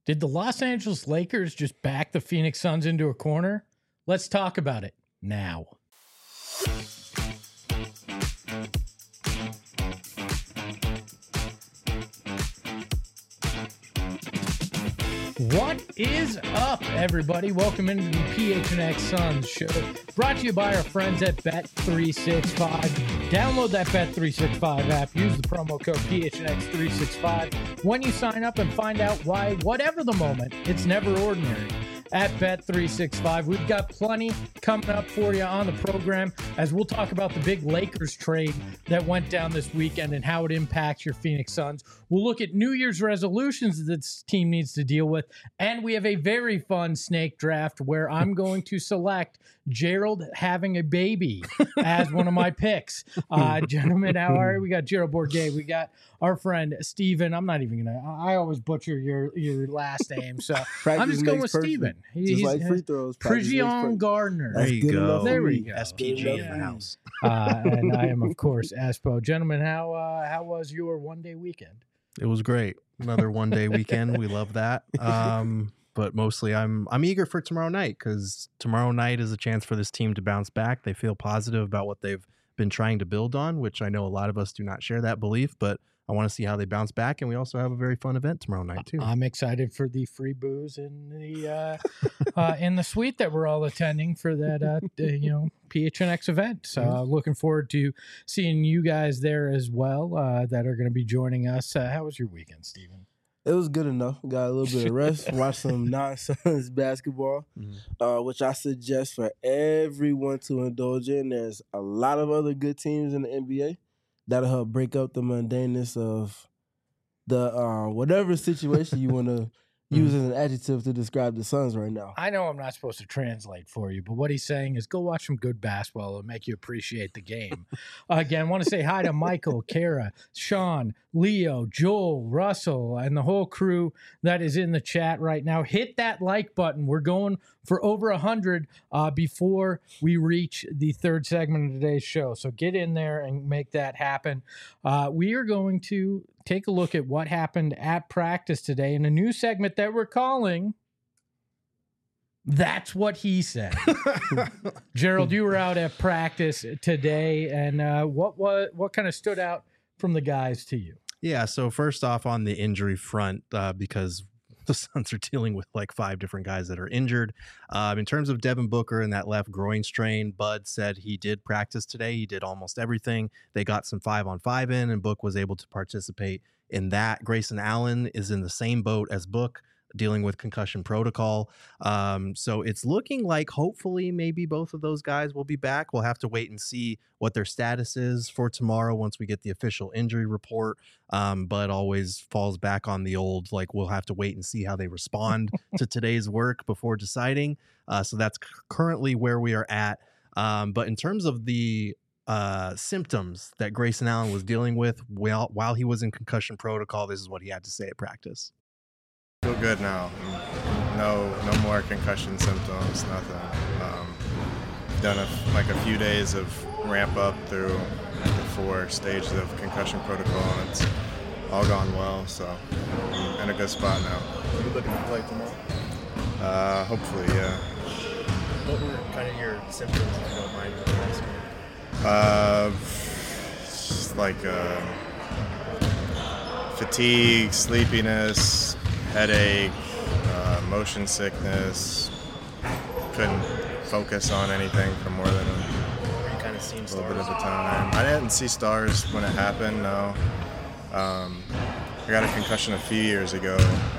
Did the Los Angeles Lakers just back the Phoenix Suns into a corner? Let's talk about it now. What is up, everybody? Welcome into the PHNX Suns show, brought to you by our friends at Bet365. Download that Bet365 app. Use the promo code PHNX365 when you sign up and find out why, whatever the moment, it's never ordinary. At Bet365, we've got plenty coming up for you on the program as we'll talk about the big Lakers trade that went down this weekend and how it impacts your Phoenix Suns. We'll look at New Year's resolutions that this team needs to deal with, and we have a very fun snake draft where I'm going to select Gerald having a baby as one of my picks. Gentlemen, how are you? We got Gerald Bourguet. We got our friend Steven. I'm not even going to, I always butcher your last name, so I'm just going with Steven. He's like free throws. Prigion Gardner. There you go. There we go. SPG in the house. And I am, of course, Espo. Gentlemen, how was your one-day weekend? It was great. Another one-day weekend. We love that. But mostly I'm eager for tomorrow night because tomorrow night is a chance for this team to bounce back. They feel positive about what they've been trying to build on, which I know a lot of us do not share that belief, but I want to see how they bounce back. And we also have a very fun event tomorrow night too. I'm excited for the free booze in the in the suite that we're all attending for that PHNX event. So looking forward to seeing you guys there as well that are going to be joining us. How was your weekend, Steven? It was good enough. Got a little bit of rest. Watched some non-Suns basketball, which I suggest for everyone to indulge in. There's a lot of other good teams in the NBA that'll help break up the mundaneness of the whatever situation you want to use as an adjective to describe the Suns right now. I know I'm not supposed to translate for you, but what he's saying is go watch some good basketball. It'll make you appreciate the game. Again, I want to say hi to Michael, Kara, Sean, Leo, Joel, Russell, and the whole crew that is in the chat right now. Hit that like button. We're going for over 100 before we reach the third segment of today's show. So get in there and make that happen. We are going to take a look at what happened at practice today in a new segment that we're calling That's What He Said. Gerald, you were out at practice today, and what kind of stood out from the guys to you? Yeah, so first off on the injury front, because the Suns are dealing with like 5 different guys that are injured. In terms of Devin Booker and that left groin strain, Bud said he did practice today. He did almost everything. They got some 5-on-5 in, and Book was able to participate in that. Grayson Allen is in the same boat as Book, dealing with concussion protocol. So it's looking like hopefully maybe both of those guys will be back. We'll have to wait and see what their status is for tomorrow once we get the official injury report. But always falls back on the old, like we'll have to wait and see how they respond to today's work before deciding. So that's currently where we are at. But in terms of the symptoms that Grayson Allen was dealing with while he was in concussion protocol, this is what he had to say at practice. Feel good now. No more concussion symptoms, nothing. Done a few days of ramp up through the 4 stages of concussion protocol, and it's all gone well, so I'm in a good spot now. Are you looking to play tomorrow? Hopefully, yeah. What were kind of your symptoms, if you don't mind asking? Just like fatigue, sleepiness, headache, motion sickness. Couldn't focus on anything for more than You kind of seen a little stars. bit of a time. I didn't see stars when it happened, no. I got a concussion a few years ago.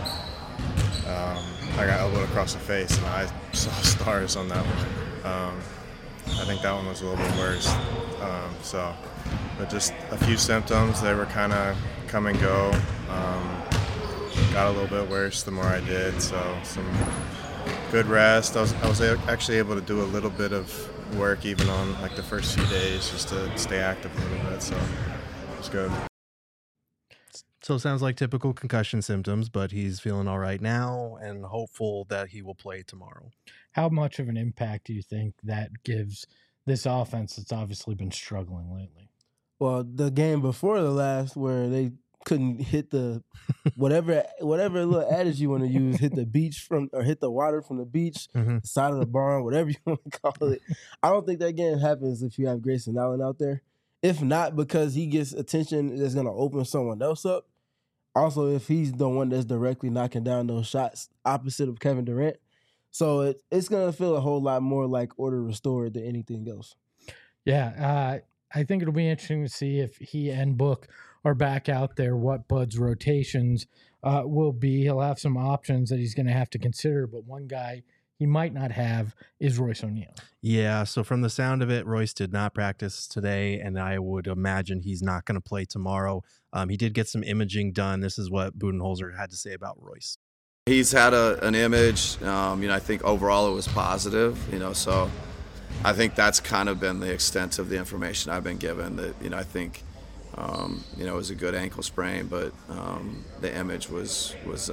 I got elbowed across the face, and I saw stars on that one. I think that one was a little bit worse. But just a few symptoms, they were kind of come and go. Got a little bit worse the more I did, so some good rest. I was actually able to do a little bit of work even on like the first few days just to stay active a little bit, so it was good. So it sounds like typical concussion symptoms, but he's feeling all right now and hopeful that he will play tomorrow. How much of an impact do you think that gives this offense that's obviously been struggling lately? Well, the game before the last where they couldn't hit the whatever little adage you want to use, hit the beach or hit the water from the beach, the side of the barn, whatever you want to call it. I don't think that game happens if you have Grayson Allen out there. If not, because he gets attention that's going to open someone else up. Also, if he's the one that's directly knocking down those shots opposite of Kevin Durant. So it's going to feel a whole lot more like order restored than anything else. Yeah, I think it'll be interesting to see if he and Book are back out there, what Bud's rotations will be. He'll have some options that he's going to have to consider, but one guy he might not have is Royce O'Neal. Yeah, so from the sound of it, Royce did not practice today, and I would imagine he's not going to play tomorrow. He did get some imaging done. This is what Budenholzer had to say about Royce. He's had an image. I think overall it was positive. So I think that's kind of been the extent of the information I've been given. That I think it was a good ankle sprain, but the image was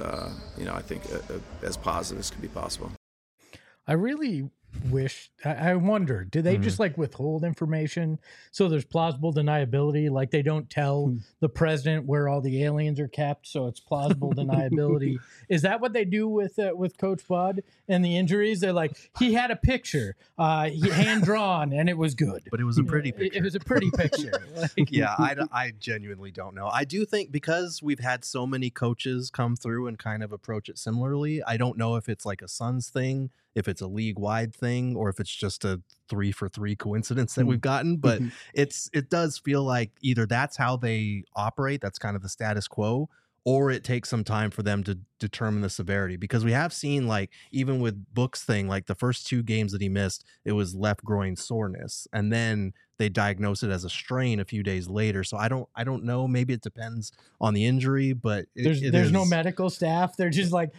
I think as positive as could be possible. I really wish, I wonder, do they just like withhold information so there's plausible deniability? Like they don't tell the president where all the aliens are kept, so it's plausible deniability. Is that what they do with Coach Bud and the injuries? They're like, he had a picture, hand drawn, and it was good. But it was a pretty picture. It was a pretty picture. Yeah, I genuinely don't know. I do think because we've had so many coaches come through and kind of approach it similarly, I don't know if it's like a Suns thing, if it's a league-wide thing, or if it's just a 3-for-3 coincidence that we've gotten. But it does feel like either that's how they operate, that's kind of the status quo, or it takes some time for them to determine the severity. Because we have seen, like, even with Book's thing, like the first 2 games that he missed, it was left groin soreness. And then they diagnosed it as a strain a few days later. So I don't know. Maybe it depends on the injury, but there's no medical staff. They're just like,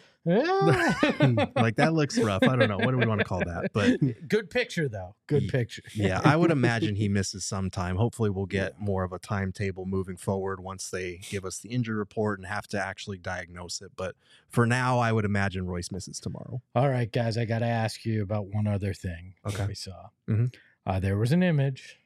like that looks rough. I don't know. What do we want to call that? But good picture though. Good picture. Yeah, I would imagine he misses some time. Hopefully we'll get more of a timetable moving forward once they give us the injury report and have to actually diagnose it. But for now, I would imagine Royce misses tomorrow. All right, guys, I got to ask you about one other thing that we saw. There was an image.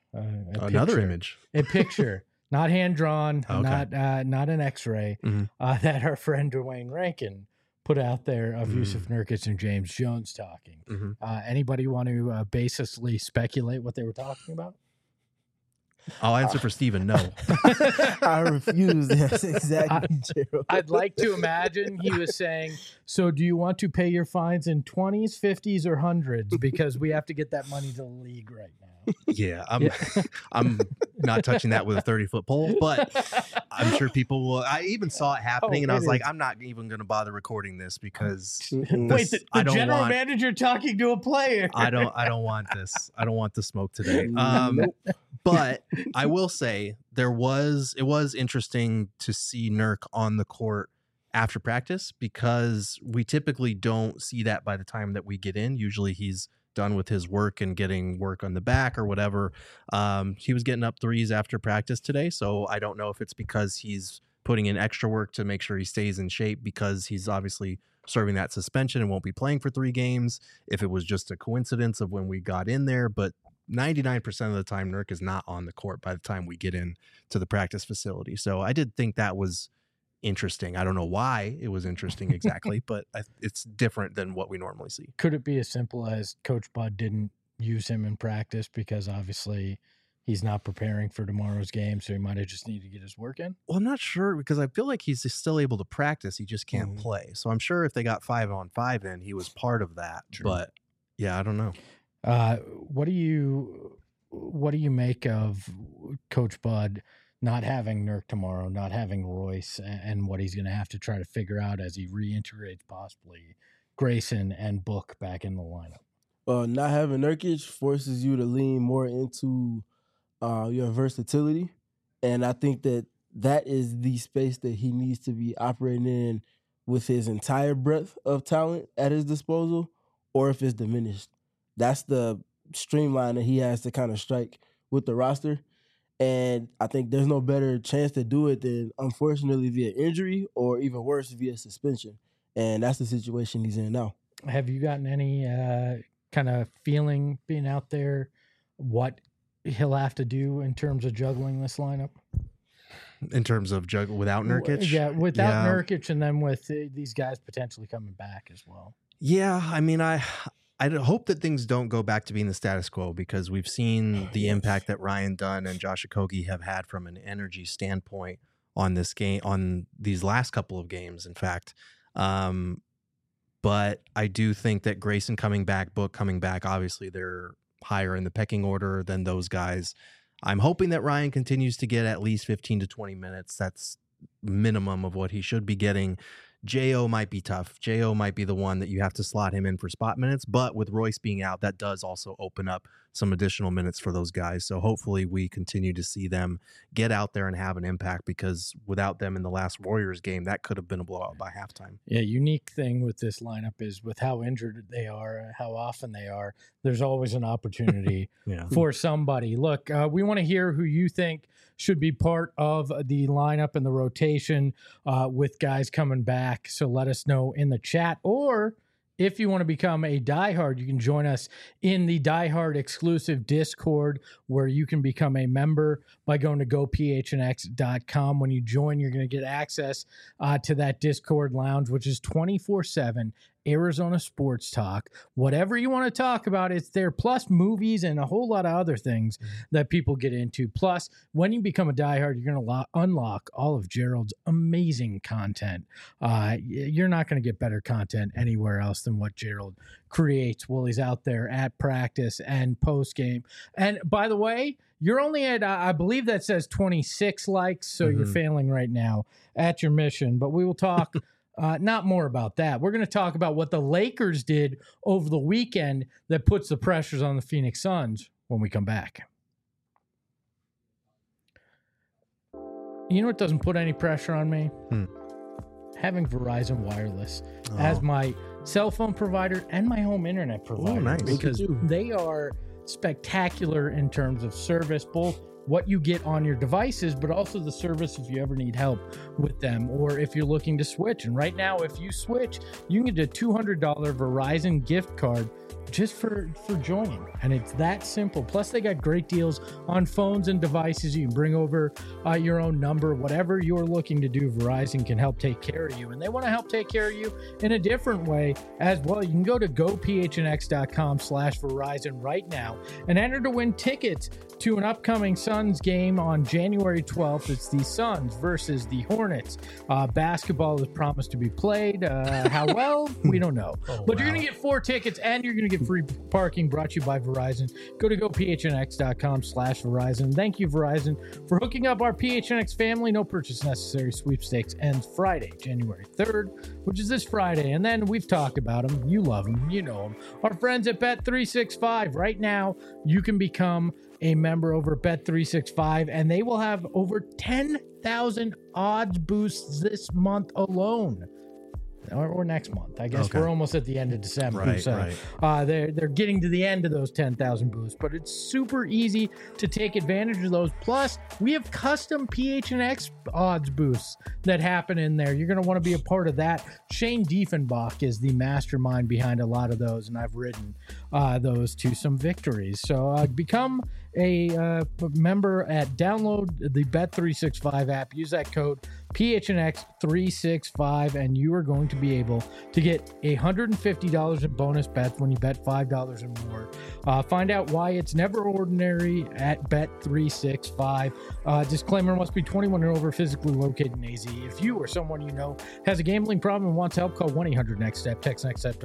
A picture, not hand drawn, not an X-ray, that our friend Dwayne Rankin put out there of Yusuf Nurkic and James Jones talking. Anybody want to baselessly speculate what they were talking about? I'll answer for Steven. No. I refuse. Yes, exactly, Gerald. I'd like to imagine he was saying, so do you want to pay your fines in 20s, 50s, or 100s? Because we have to get that money to the league right now. Yeah, I'm not touching that with a 30-foot pole, but I'm sure people will. I even saw it happening, and I was like, I'm not even going to bother recording this because wait, the general manager talking to a player. I don't want this. I don't want the smoke today. But I will say it was interesting to see Nurk on the court after practice because we typically don't see that by the time that we get in. Usually he's done with his work and getting work on the back or whatever. He was getting up threes after practice today, so I don't know if it's because he's putting in extra work to make sure he stays in shape because he's obviously serving that suspension and won't be playing for 3 games, if it was just a coincidence of when we got in there. But 99% of the time, Nurk is not on the court by the time we get in to the practice facility. So I did think that was interesting. I don't know why it was interesting exactly, but it's different than what we normally see. Could it be as simple as Coach Bud didn't use him in practice because obviously he's not preparing for tomorrow's game, so he might have just needed to get his work in? Well, I'm not sure because I feel like he's still able to practice. He just can't play. So I'm sure if they got 5-on-5 in, he was part of that. True. But yeah, I don't know. What do you make of Coach Bud not having Nurk tomorrow, not having Royce, and what he's going to have to try to figure out as he reintegrates possibly Grayson and Book back in the lineup? Well, not having Nurkic forces you to lean more into your versatility, and I think that is the space that he needs to be operating in with his entire breadth of talent at his disposal, or if it's diminished. That's the streamline that he has to kind of strike with the roster. And I think there's no better chance to do it than, unfortunately, via injury or even worse, via suspension. And that's the situation he's in now. Have you gotten any kind of feeling being out there what he'll have to do in terms of juggling this lineup? in terms of without Nurkic. Yeah, without Nurkic, and then with these guys potentially coming back as well. Yeah, I mean, I hope that things don't go back to being the status quo, because we've seen the impact that Ryan Dunn and Josh Okogie have had from an energy standpoint on this game, on these last couple of games, in fact. But I do think that Grayson coming back, Book coming back, obviously they're higher in the pecking order than those guys. I'm hoping that Ryan continues to get at least 15 to 20 minutes. That's minimum of what he should be getting. J.O. might be tough. J.O. might be the one that you have to slot him in for spot minutes, but with Royce being out, that does also open up some additional minutes for those guys. So hopefully we continue to see them get out there and have an impact, because without them in the last Warriors game, that could have been a blowout by halftime. Yeah, unique thing with this lineup is with how injured they are, how often they are, there's always an opportunity for somebody. Look, we want to hear who you think should be part of the lineup and the rotation with guys coming back. So let us know in the chat, or if you want to become a diehard, you can join us in the diehard exclusive Discord, where you can become a member by going to gophnx.com. When you join, you're going to get access to that Discord lounge, which is 24/7 Arizona sports talk. Whatever you want to talk about, it's there, plus movies and a whole lot of other things that people get into. Plus, when you become a diehard, you're going to unlock all of Gerald's amazing content. You're not going to get better content anywhere else than what Gerald creates while he's out there at practice and post game. And by the way, you're only at, I believe that says 26 likes, so you're failing right now at your mission. But we will talk not more about that. We're going to talk about what the Lakers did over the weekend that puts the pressures on the Phoenix Suns when we come back. You know what doesn't put any pressure on me? Having Verizon Wireless as my cell phone provider and my home internet provider. Nice. Because they are spectacular in terms of service, both what you get on your devices, but also the service if you ever need help with them, or if you're looking to switch. And right now, if you switch, you can get a $200 Verizon gift card just for joining. And it's that simple. Plus, they got great deals on phones and devices. You can bring over your own number. Whatever you're looking to do, Verizon can help take care of you. And they want to help take care of you in a different way as well. You can go to gophnx.com/Verizon right now and enter to win tickets to an upcoming Suns game on January 12th. It's the Suns versus the Hornets. Basketball is promised to be played. How well? We don't know. But you're going to get 4 tickets, and you're going to get free parking, brought to you by Verizon. Go to gophnx.com/Verizon. Thank you, Verizon, for hooking up our PHNX family. No purchase necessary. Sweepstakes ends Friday, January 3rd, which is this Friday. And then we've talked about them. You love them. You know them. Our friends at Bet365. Right now, you can become a member over Bet365, and they will have over 10,000 odds boosts this month alone. Or next month. I guess we're almost at the end of December. Right, so they're getting to the end of those 10,000 boosts, but it's super easy to take advantage of those. Plus, we have custom PHNX odds boosts that happen in there. You're going to want to be a part of that. Shane Diefenbach is the mastermind behind a lot of those, and I've ridden those to some victories. So become a member download the Bet365 app. Use that code PHNX365, and you are going to be able to get $150 in bonus bets when you bet $5 or more. Find out why it's never ordinary at Bet365. Disclaimer: must be 21 and over, physically located in AZ. If you or someone you know has a gambling problem and wants help, call 1-800-NEXT-STEP. Text NEXT STEP to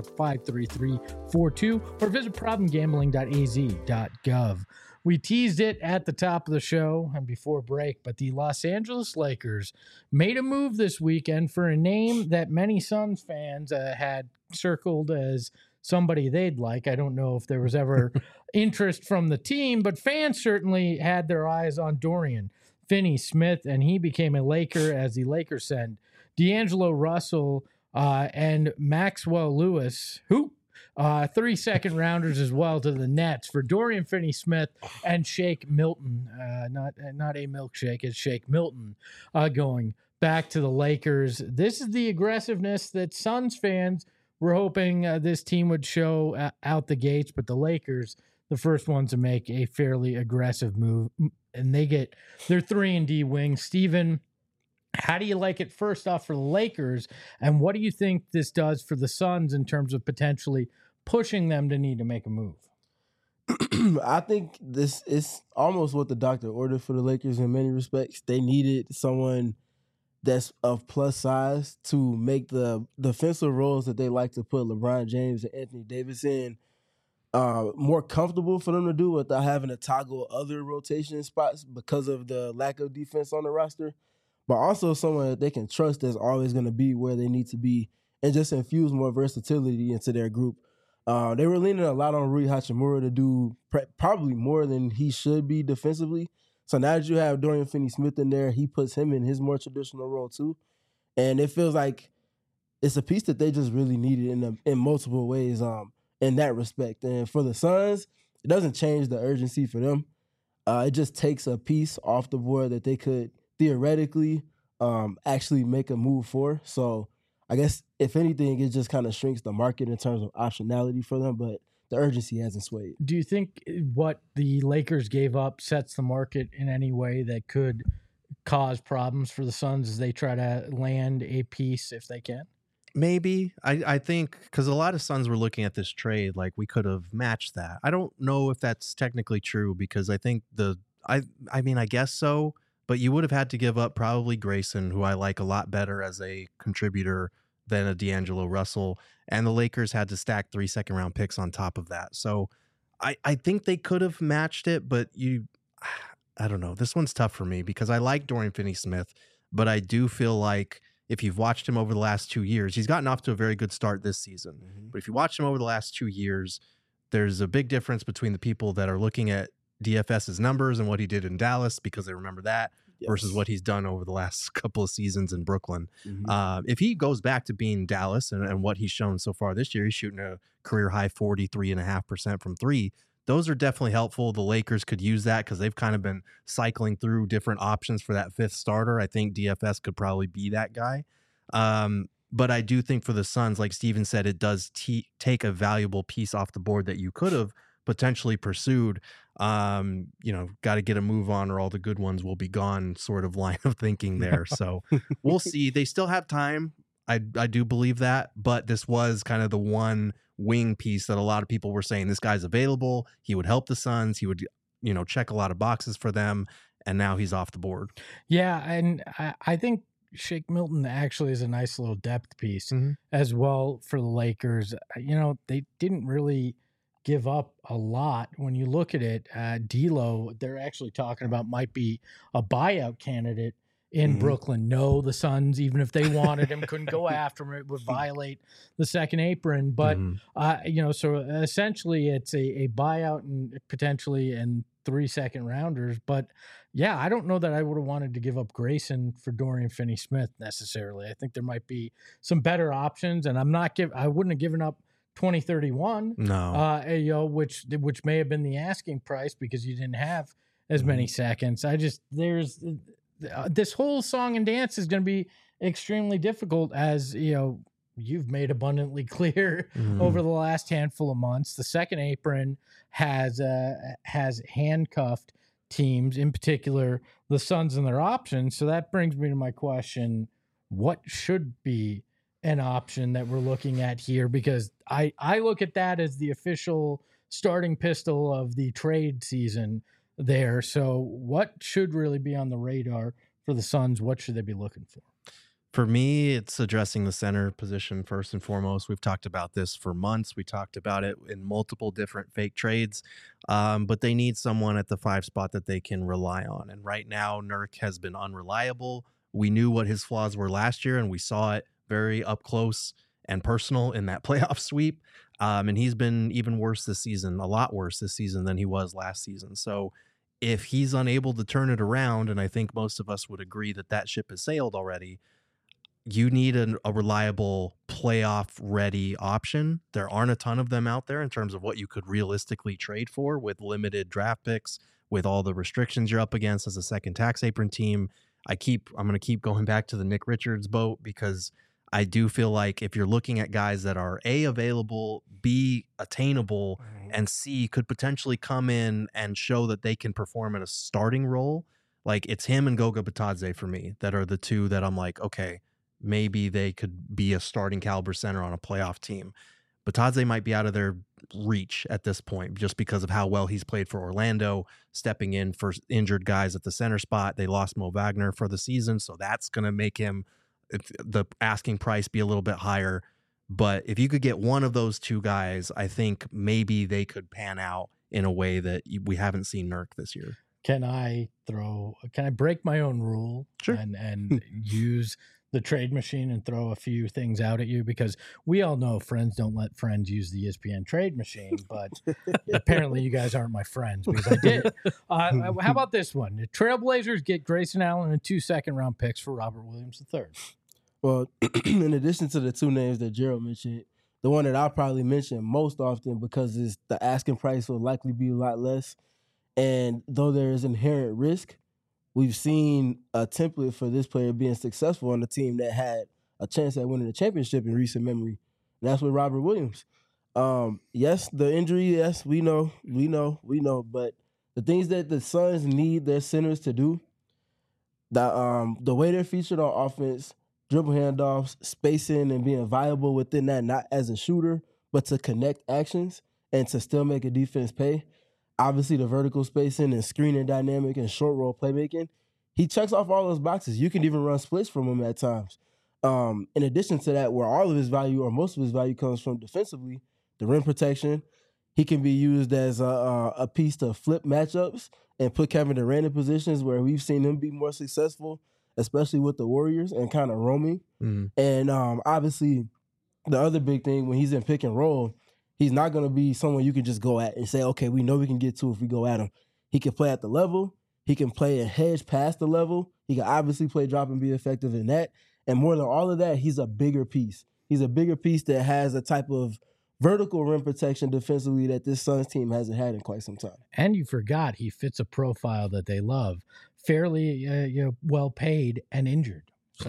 53342 or visit problemgambling.az.gov. We teased it at the top of the show and before break, but the Los Angeles Lakers made a move this weekend for a name that many Suns fans had circled as somebody they'd like. I don't know if there was ever interest from the team, but fans certainly had their eyes on Dorian Finney-Smith, and he became a Laker as the Lakers sent D'Angelo Russell and Maxwell Lewis, who 3 second rounders as well, to the Nets for Dorian Finney-Smith and Shake Milton. Not a milkshake, it's Shake Milton going back to the Lakers. This is the aggressiveness that Suns fans were hoping this team would show out the gates, but the Lakers the first ones to make a fairly aggressive move, and they get their 3-and-D wing. Steven, how do you like it first off for the Lakers, and what do you think this does for the Suns in terms of potentially pushing them to need to make a move? I think this is almost what the doctor ordered for the Lakers in many respects. They needed someone that's of plus size to make the defensive roles that they like to put LeBron James and Anthony Davis in more comfortable for them to do without having to toggle other rotation spots because of the lack of defense on the roster. But also someone that they can trust that's always going to be where they need to be and just infuse more versatility into their group. They were leaning a lot on Rui Hachimura to do probably more than he should be defensively. So now that you have Dorian Finney-Smith in there, he puts him in his more traditional role too. And it feels like it's a piece that they just really needed in multiple ways in that respect. And for the Suns, it doesn't change the urgency for them. It just takes a piece off the board that they could theoretically actually make a move for. So I guess, if anything, it just kind of shrinks the market in terms of optionality for them, but the urgency hasn't swayed. Do you think what the Lakers gave up sets the market in any way that could cause problems for the Suns as they try to land a piece if they can? Maybe. I think because a lot of Suns were looking at this trade like we could have matched that. I don't know if that's technically true because I think I mean, I guess so, but you would have had to give up probably Grayson, who I like a lot better as a contributor than a D'Angelo Russell, and the Lakers had to stack 3 second-round picks on top of that. So I think they could have matched it, but I don't know. This one's tough for me because I like Dorian Finney-Smith, but I do feel like if you've watched him over the last 2 years, he's gotten off to a very good start this season. Mm-hmm. But if you watch him over the last 2 years, there's a big difference between the people that are looking at DFS's numbers and what he did in Dallas because they remember that. Yes. Versus what he's done over the last couple of seasons in Brooklyn. Mm-hmm. If he goes back to being Dallas and what he's shown so far this year, he's shooting a career high 43.5% from three. Those are definitely helpful. The Lakers could use that because they've kind of been cycling through different options for that fifth starter. I think DFS could probably be that guy. But I do think for the Suns, like Steven said, it does take a valuable piece off the board that you could have potentially pursued. Got to get a move on or all the good ones will be gone sort of line of thinking there. So we'll see. They still have time. I do believe that, but this was kind of the one wing piece that a lot of people were saying this guy's available. He would help the Suns. He would, check a lot of boxes for them. And now he's off the board. Yeah. And I think Shake Milton actually is a nice little depth piece as well for the Lakers. They didn't really give up a lot. When you look at it, D'Lo, they're actually talking about might be a buyout candidate in Brooklyn. No, the Suns, even if they wanted him, couldn't go after him. It would violate the second apron. But, so essentially it's a buyout and potentially and 3 second rounders. But yeah, I don't know that I would have wanted to give up Grayson for Dorian Finney-Smith necessarily. I think there might be some better options, and I wouldn't have given up 2031, which may have been the asking price because you didn't have as many seconds. There's this whole song and dance is going to be extremely difficult, as you've made abundantly clear over the last handful of months. The second apron has handcuffed teams, in particular the Suns and their options. So that brings me to my question: what should be an option that we're looking at here? Because I look at that as the official starting pistol of the trade season there. So what should really be on the radar for the Suns? What should they be looking for? For me, it's addressing the center position first and foremost. We've talked about this for months. We talked about it in multiple different fake trades, but they need someone at the 5 spot that they can rely on. And right now, Nurk has been unreliable. We knew what his flaws were last year, and we saw it very up close and personal in that playoff sweep. And he's been even worse this season, a lot worse this season than he was last season. So if he's unable to turn it around, and I think most of us would agree that ship has sailed already, you need a reliable playoff-ready option. There aren't a ton of them out there in terms of what you could realistically trade for with limited draft picks, with all the restrictions you're up against as a second tax apron team. I'm going to keep going back to the Nick Richards boat because I do feel like if you're looking at guys that are A, available, B, attainable, and C could potentially come in and show that they can perform in a starting role. Like, it's him and Goga Batadze for me that are the two that I'm like, okay, maybe they could be a starting caliber center on a playoff team. Batadze might be out of their reach at this point just because of how well he's played for Orlando, stepping in for injured guys at the center spot. They lost Mo Wagner for the season, so that's going to make him the asking price be a little bit higher. But if you could get one of those two guys, I think maybe they could pan out in a way that we haven't seen Nurk this year. Can I break my own rule Sure. and use the trade machine and throw a few things out at you? Because we all know friends don't let friends use the ESPN trade machine, but apparently you guys aren't my friends because I did. How about this one? The Trailblazers get Grayson Allen and 2 second-round picks for Robert Williams III. Well, in addition to the two names that Gerald mentioned, the one that I'll probably mention most often because the asking price will likely be a lot less. And though there is inherent risk, we've seen a template for this player being successful on a team that had a chance at winning a championship in recent memory. And that's with Robert Williams. Yes, the injury, yes, we know. But the things that the Suns need their centers to do, the way they're featured on offense, dribble handoffs, spacing, and being viable within that, not as a shooter, but to connect actions and to still make a defense pay. Obviously, the vertical spacing and screening dynamic and short roll playmaking, he checks off all those boxes. You can even run splits from him at times. In addition to that, where all of his value or most of his value comes from defensively, the rim protection, he can be used as a piece to flip matchups and put Kevin Durant in positions where we've seen him be more successful, especially with the Warriors and kind of roaming. Mm-hmm. And obviously, the other big thing when he's in pick and roll, he's not going to be someone you can just go at and say, okay, we know we can get to if we go at him. He can play at the level. He can play a hedge past the level. He can obviously play drop and be effective in that. And more than all of that, he's a bigger piece. He's a bigger piece that has a type of vertical rim protection defensively that this Suns team hasn't had in quite some time. And you forgot he fits a profile that they love. Fairly well paid and injured. So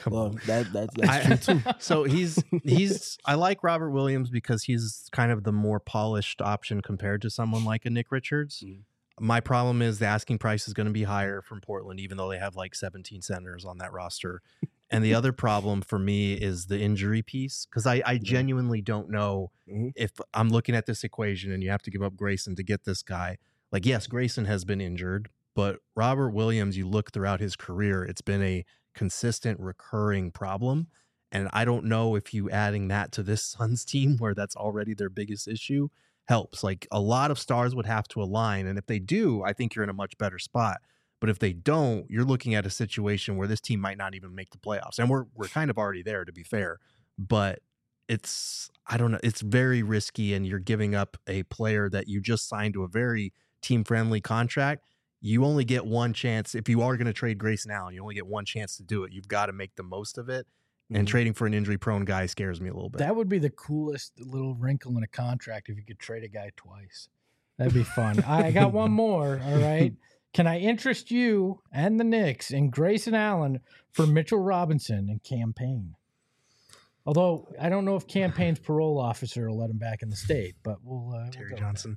that's true too. So I like Robert Williams because he's kind of the more polished option compared to someone like a Nick Richards. My problem is the asking price is going to be higher from Portland, even though they have like 17 centers on that roster. And the other problem for me is the injury piece, because I genuinely don't know if I'm looking at this equation and you have to give up Grayson to get this guy. Like, yes, Grayson has been injured, but Robert Williams, you look throughout his career, it's been a consistent recurring problem. And I don't know if you adding that to this Suns team where that's already their biggest issue helps. Like, a lot of stars would have to align. And if they do, I think you're in a much better spot. But if they don't, you're looking at a situation where this team might not even make the playoffs. And we're kind of already there, to be fair. But I don't know, it's very risky, and you're giving up a player that you just signed to a very team-friendly contract. You only get one chance. If you are going to trade Grayson Allen, you only get one chance to do it. You've got to make the most of it. And trading for an injury-prone guy scares me a little bit. That would be the coolest little wrinkle in a contract if you could trade a guy twice. That'd be fun. I got one more, all right? Can I interest you and the Knicks in Grayson Allen for Mitchell Robinson and Cam Payne? Although I don't know if Cam Payne's parole officer will let him back in the state, but we'll Terry Johnson.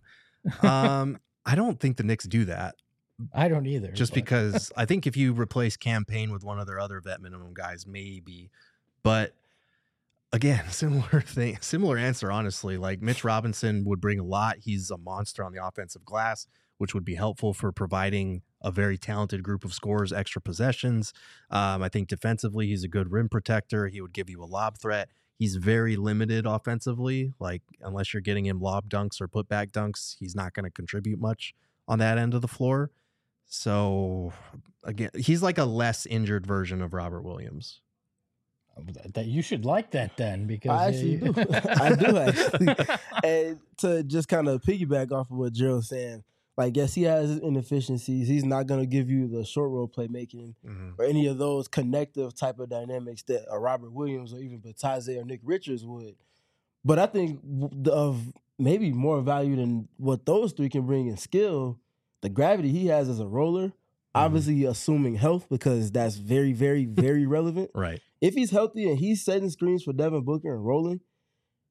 I don't think the Knicks do that. I don't either. Because I think if you replace Cam Payne with one of their other vet minimum guys, maybe. But again, similar answer, honestly. Like, Mitch Robinson would bring a lot. He's a monster on the offensive glass, which would be helpful for providing a very talented group of scorers extra possessions. I think defensively, he's a good rim protector. He would give you a lob threat. He's very limited offensively. Like, unless you're getting him lob dunks or putback dunks, he's not going to contribute much on that end of the floor. So, again, he's like a less injured version of Robert Williams. That you should like that then, because I actually do. I do actually. And to just kind of piggyback off of what Gerald's saying, like, yes, he has his inefficiencies. He's not going to give you the short roll playmaking or any of those connective type of dynamics that a Robert Williams or even Batadze or Nick Richards would. But I think of maybe more value than what those three can bring in skill, the gravity he has as a roller, obviously assuming health, because that's very, very, very relevant. Right. If he's healthy and he's setting screens for Devin Booker and rolling,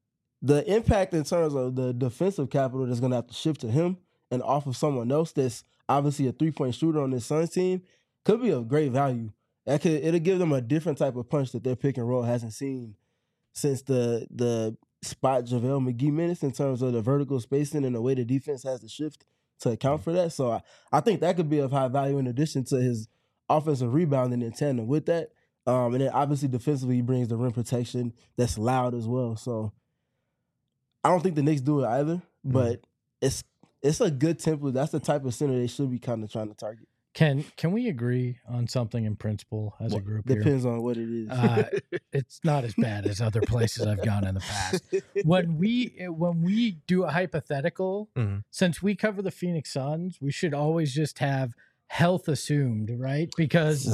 the impact in terms of the defensive capital that's going to have to shift to him and off of someone else that's obviously a 3-point shooter on this Suns team could be of great value. It'll give them a different type of punch that their pick and roll hasn't seen since the spot JaVale McGee minutes in terms of the vertical spacing and the way the defense has to shift to account for that. So I think that could be of high value in addition to his offensive rebounding in tandem with that. And then obviously defensively he brings the rim protection that's loud as well. So I don't think the Knicks do it either, but it's a good template. That's the type of center they should be kind of trying to target. Can we agree on something in principle as a group here? Depends on what it is. It's not as bad as other places I've gone in the past. When we do a hypothetical, since we cover the Phoenix Suns, we should always just have health assumed, right? Because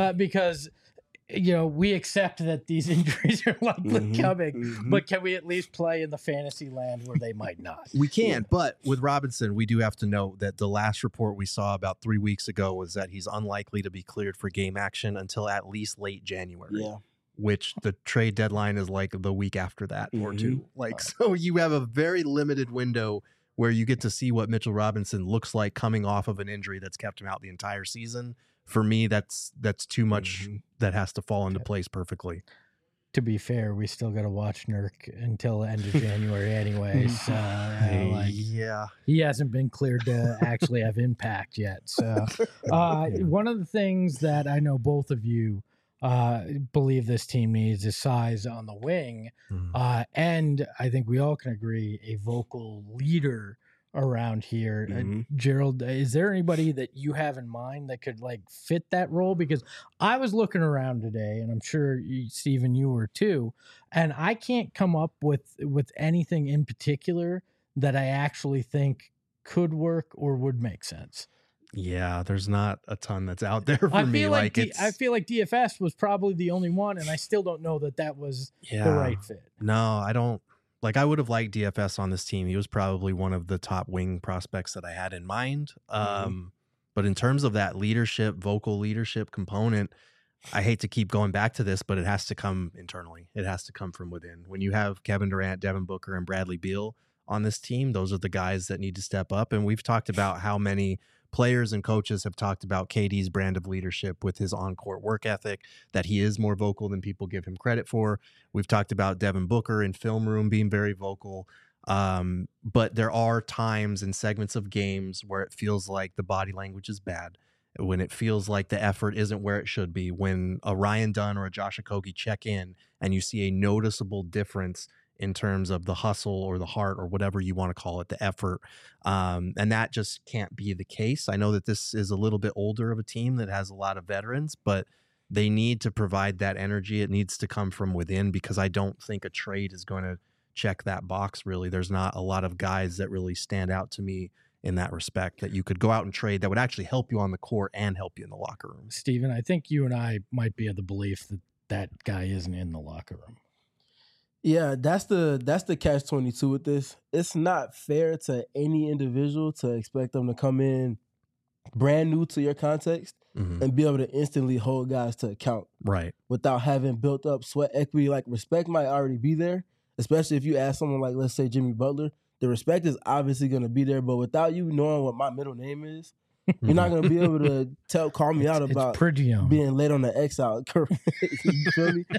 we accept that these injuries are likely coming, but can we at least play in the fantasy land where they might not? We can, but with Robinson, we do have to note that the last report we saw about 3 weeks ago was that he's unlikely to be cleared for game action until at least late January. Yeah. Which the trade deadline is like the week after that or two. So you have a very limited window where you get to see what Mitchell Robinson looks like coming off of an injury that's kept him out the entire season. For me, that's too much that has to fall into place perfectly. To be fair, we still got to watch Nurk until the end of January anyway. So, he hasn't been cleared to actually have impact yet. So one of the things that I know both of you believe this team needs is size on the wing. And I think we all can agree a vocal leader around here. Gerald, is there anybody that you have in mind that could fit that role? Because I was looking around today, and I'm sure Stephen, you were too, and I can't come up with anything in particular that I actually think could work or would make sense. Yeah, there's not a ton that's out there for me. I feel like DFS was probably the only one, and I still don't know that was the right fit. No, I don't. I would have liked DFS on this team. He was probably one of the top wing prospects that I had in mind. But in terms of that vocal leadership component, I hate to keep going back to this, but it has to come internally. It has to come from within. When you have Kevin Durant, Devin Booker, and Bradley Beal on this team, those are the guys that need to step up. And we've talked about how many players and coaches have talked about KD's brand of leadership with his on-court work ethic, that he is more vocal than people give him credit for. We've talked about Devin Booker in film room being very vocal. But there are times and segments of games where it feels like the body language is bad, when it feels like the effort isn't where it should be, when a Ryan Dunn or a Josh Okogie check in and you see a noticeable difference in terms of the hustle or the heart or whatever you want to call it, the effort. And that just can't be the case. I know that this is a little bit older of a team that has a lot of veterans, but they need to provide that energy. It needs to come from within, because I don't think a trade is going to check that box, really. There's not a lot of guys that really stand out to me in that respect that you could go out and trade that would actually help you on the court and help you in the locker room. Steven, I think you and I might be of the belief that guy isn't in the locker room. Yeah, that's the catch-22 with this. It's not fair to any individual to expect them to come in brand new to your context and be able to instantly hold guys to account. Right. Without having built up sweat equity. Respect might already be there, especially if you ask someone like, let's say, Jimmy Butler. The respect is obviously going to be there, but without you knowing what my middle name is, you're not going to be able to call me out about being late on the X out. You feel me?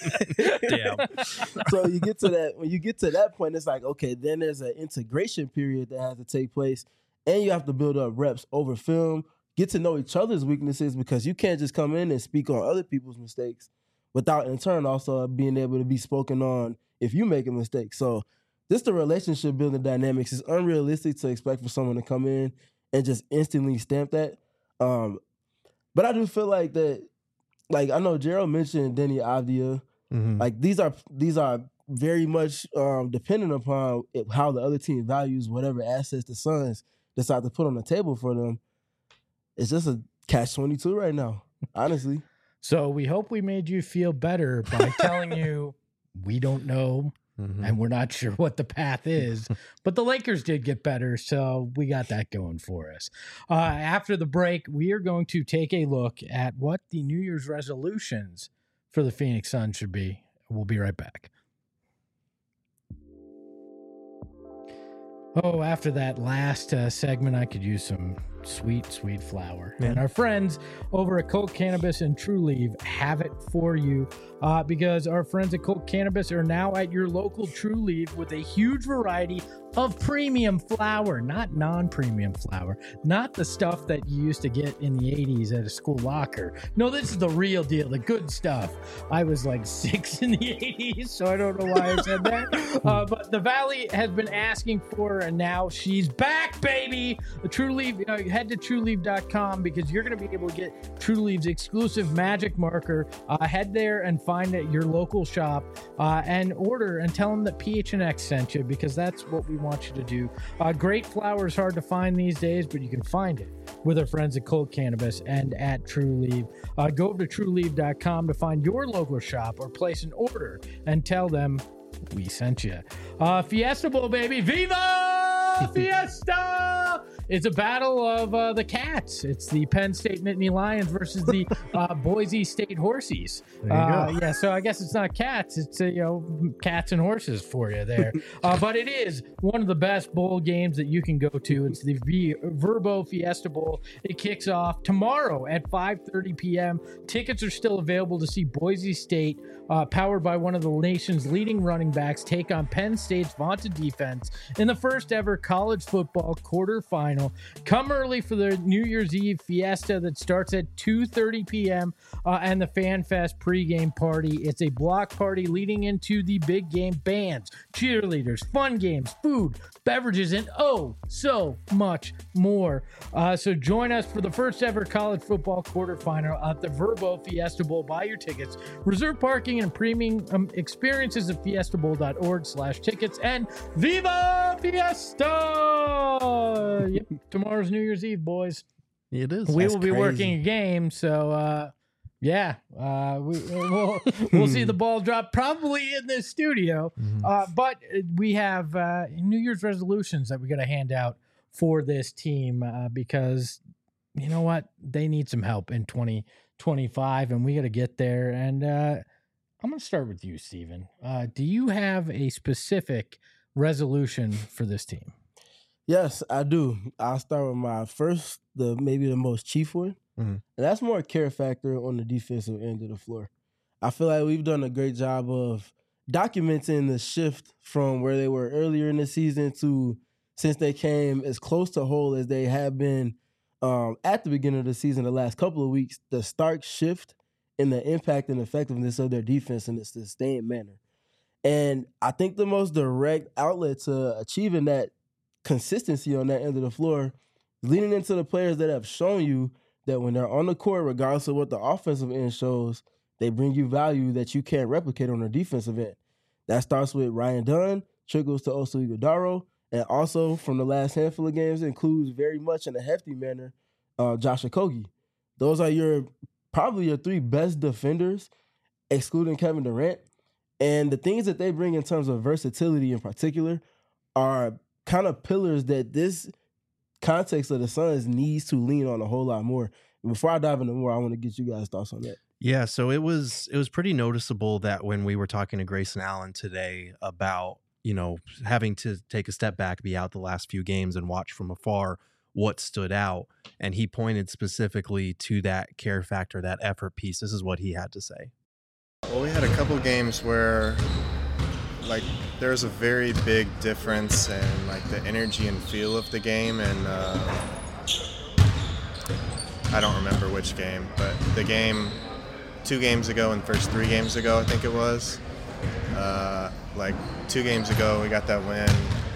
Damn. So when you get to that point, it's like, okay, then there's an integration period that has to take place, and you have to build up reps over film, get to know each other's weaknesses, because you can't just come in and speak on other people's mistakes without in turn also being able to be spoken on if you make a mistake. So just the relationship building dynamics is unrealistic to expect for someone to come in and just instantly stamp that. But I do feel like that, I know Gerald mentioned Denny Avdia. These are very much dependent upon how the other team values whatever assets the Suns decide to put on the table for them. It's just a catch-22 right now, honestly. So we hope we made you feel better by telling you we don't know. And we're not sure what the path is, but the Lakers did get better, so we got that going for us. After the break, we are going to take a look at what the New Year's resolutions for the Phoenix Suns should be. We'll be right back. Oh, after that last segment, I could use some sweet flower. Yeah. And our friends over at Colt Cannabis and Trulieve have it for you because our friends at Colt Cannabis are now at your local Trulieve with a huge variety of premium flower, not non-premium flower, not the stuff that you used to get in the 80s at a school locker. No, this is the real deal, the good stuff. I was like 6 in the 80s, so I don't know why I said that. But the Valley has been asking for her, and now she's back, baby. The Trulieve, head to trulieve.com because you're going to be able to get Trulieve's exclusive magic marker. Head there and find it at your local shop and order and tell them that PHNX sent you because that's what we want you to do. Great flower is hard to find these days, but you can find it with our friends at Colt Cannabis and at Trulieve. Go to trulieve.com to find your local shop or place an order and tell them we sent you. Fiesta Bowl, baby. Viva Fiesta! It's a battle of the cats. It's the Penn State Nittany Lions versus the Boise State Horsies. There you go. Yeah, so I guess it's not cats. It's cats and horses for you there. But it is one of the best bowl games that you can go to. It's the Verbo Fiesta Bowl. It kicks off tomorrow at 5:30 p.m. Tickets are still available to see Boise State, powered by one of the nation's leading running backs, take on Penn State's vaunted defense in the first ever college football quarterfinal. Come early for the New Year's Eve fiesta that starts at 2:30 p.m. And the Fan Fest pregame party. It's a block party leading into the big game. Bands, cheerleaders, fun games, food, beverages, and oh, so much more. So join us for the first ever college football quarterfinal at the Verbo Fiesta Bowl. Buy your tickets. Reserve parking and premium experiences at fiestabowl.org/tickets. And Viva Fiesta! Yep, tomorrow's New Year's Eve, boys. It is. We That's will be crazy. working a game, so we'll see the ball drop probably in this studio. But we have New Year's resolutions that we got to hand out for this team because you know what, they need some help in 2025, and we got to get there. And I'm going to start with you, Steven. Do you have a specific resolution for this team? Yes, I do. I'll start with my first, maybe the most chief one. Mhm. And that's more a care factor on the defensive end of the floor. I feel like we've done a great job of documenting the shift from where they were earlier in the season to since they came as close to whole as they have been at the beginning of the season the last couple of weeks, the stark shift in the impact and effectiveness of their defense in a sustained manner. And I think the most direct outlet to achieving that consistency on that end of the floor, leaning into the players that have shown you that when they're on the court, regardless of what the offensive end shows, they bring you value that you can't replicate on the defensive end. That starts with Ryan Dunn, trickles to Oso Ighodaro, and also from the last handful of games includes very much in a hefty manner, Josh Okogie. Those are probably your three best defenders, excluding Kevin Durant. And the things that they bring in terms of versatility in particular are kind of pillars that this context of the Suns needs to lean on a whole lot more. And before I dive into more, I want to get you guys' thoughts on that. Yeah, so it was pretty noticeable that when we were talking to Grayson Allen today about, having to take a step back, be out the last few games and watch from afar what stood out. And he pointed specifically to that care factor, that effort piece. This is what he had to say. Well, we had a couple games where there's a very big difference in the energy and feel of the game, and I don't remember which game, but the game 2 games ago and first 3 games ago, I think it was. 2 games ago, we got that win.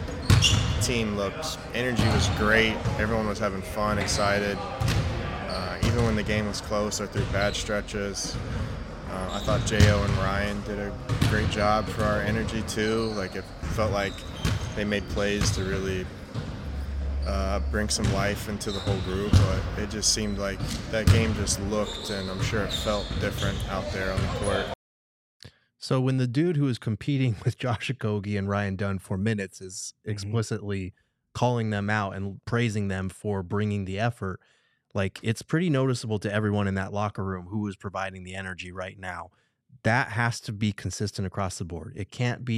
Energy was great. Everyone was having fun, excited. Even when the game was close or through bad stretches. I thought J.O. and Ryan did a great job for our energy too. It felt like they made plays to really bring some life into the whole group, but it just seemed like that game just looked, and I'm sure it felt different out there on the court. So when the dude who is competing with Josh Okogie and Ryan Dunn for minutes is explicitly calling them out and praising them for bringing the effort, it's pretty noticeable to everyone in that locker room who is providing the energy right now. That has to be consistent across the board. It can't be